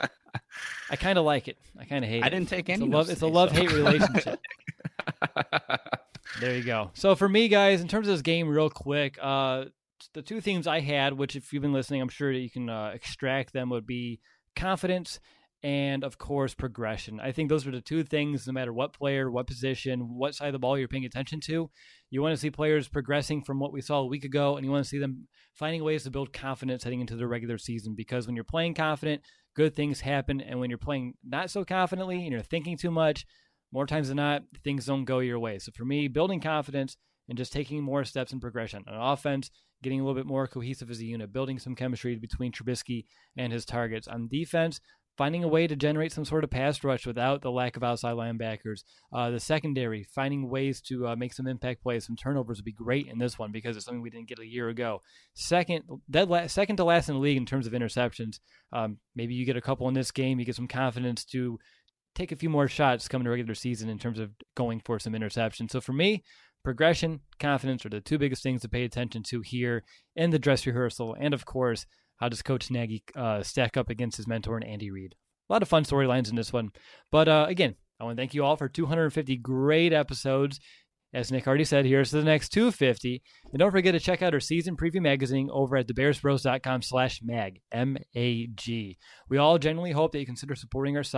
I kind of like it. I kind of hate it. I didn't take any it's a notes love, It's a love-hate so. relationship. There you go. So for me, guys, in terms of this game, real quick, uh, the two themes I had, which if you've been listening, I'm sure that you can uh, extract them, would be confidence and, of course, progression. I think those are the two things, no matter what player, what position, what side of the ball you're paying attention to. You want to see players progressing from what we saw a week ago, and you want to see them finding ways to build confidence heading into the regular season, because when you're playing confident, good things happen, and when you're playing not so confidently and you're thinking too much, more times than not, things don't go your way. So for me, building confidence and just taking more steps in progression. On offense, getting a little bit more cohesive as a unit, building some chemistry between Trubisky and his targets. On defense, finding a way to generate some sort of pass rush without the lack of outside linebackers. Uh, the secondary, finding ways to uh, make some impact plays. Some turnovers would be great in this one because it's something we didn't get a year ago. Second, dead la- second to last in the league in terms of interceptions. Um, maybe you get a couple in this game. You get some confidence to take a few more shots coming to regular season in terms of going for some interceptions. So for me, progression, confidence are the two biggest things to pay attention to here in the dress rehearsal. And of course, how does Coach Nagy uh, stack up against his mentor and Andy Reid? A lot of fun storylines in this one. But uh, again, I want to thank you all for two hundred fifty great episodes. As Nick already said, here's to the next two hundred fifty. And don't forget to check out our season preview magazine over at thebearsbros.com slash mag, M A G. We all genuinely hope that you consider supporting our site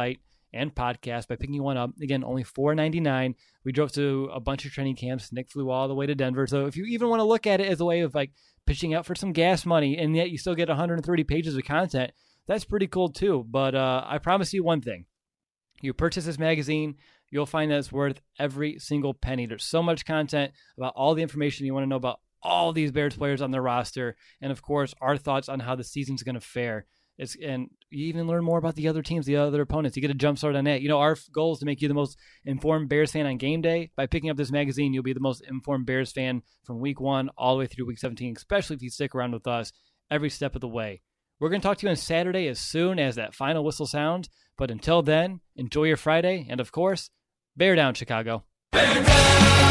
and podcast by picking one up. Again, only four ninety-nine. We drove to a bunch of training camps. Nick flew all the way to Denver. So if you even want to look at it as a way of like pitching out for some gas money, and yet you still get one hundred thirty pages of content, that's pretty cool too. But uh, I promise you one thing. You purchase this magazine, you'll find that it's worth every single penny. There's so much content about all the information you want to know about all these Bears players on their roster. And of course, our thoughts on how the season's going to fare. It's, and you even learn more about the other teams, the other opponents. You get a jump start on that. You know, our goal is to make you the most informed Bears fan on game day. By picking up this magazine, you'll be the most informed Bears fan from week one all the way through week seventeen, especially if you stick around with us every step of the way. We're going to talk to you on Saturday as soon as that final whistle sounds. But until then, enjoy your Friday. And of course, bear down, Chicago. Bear down!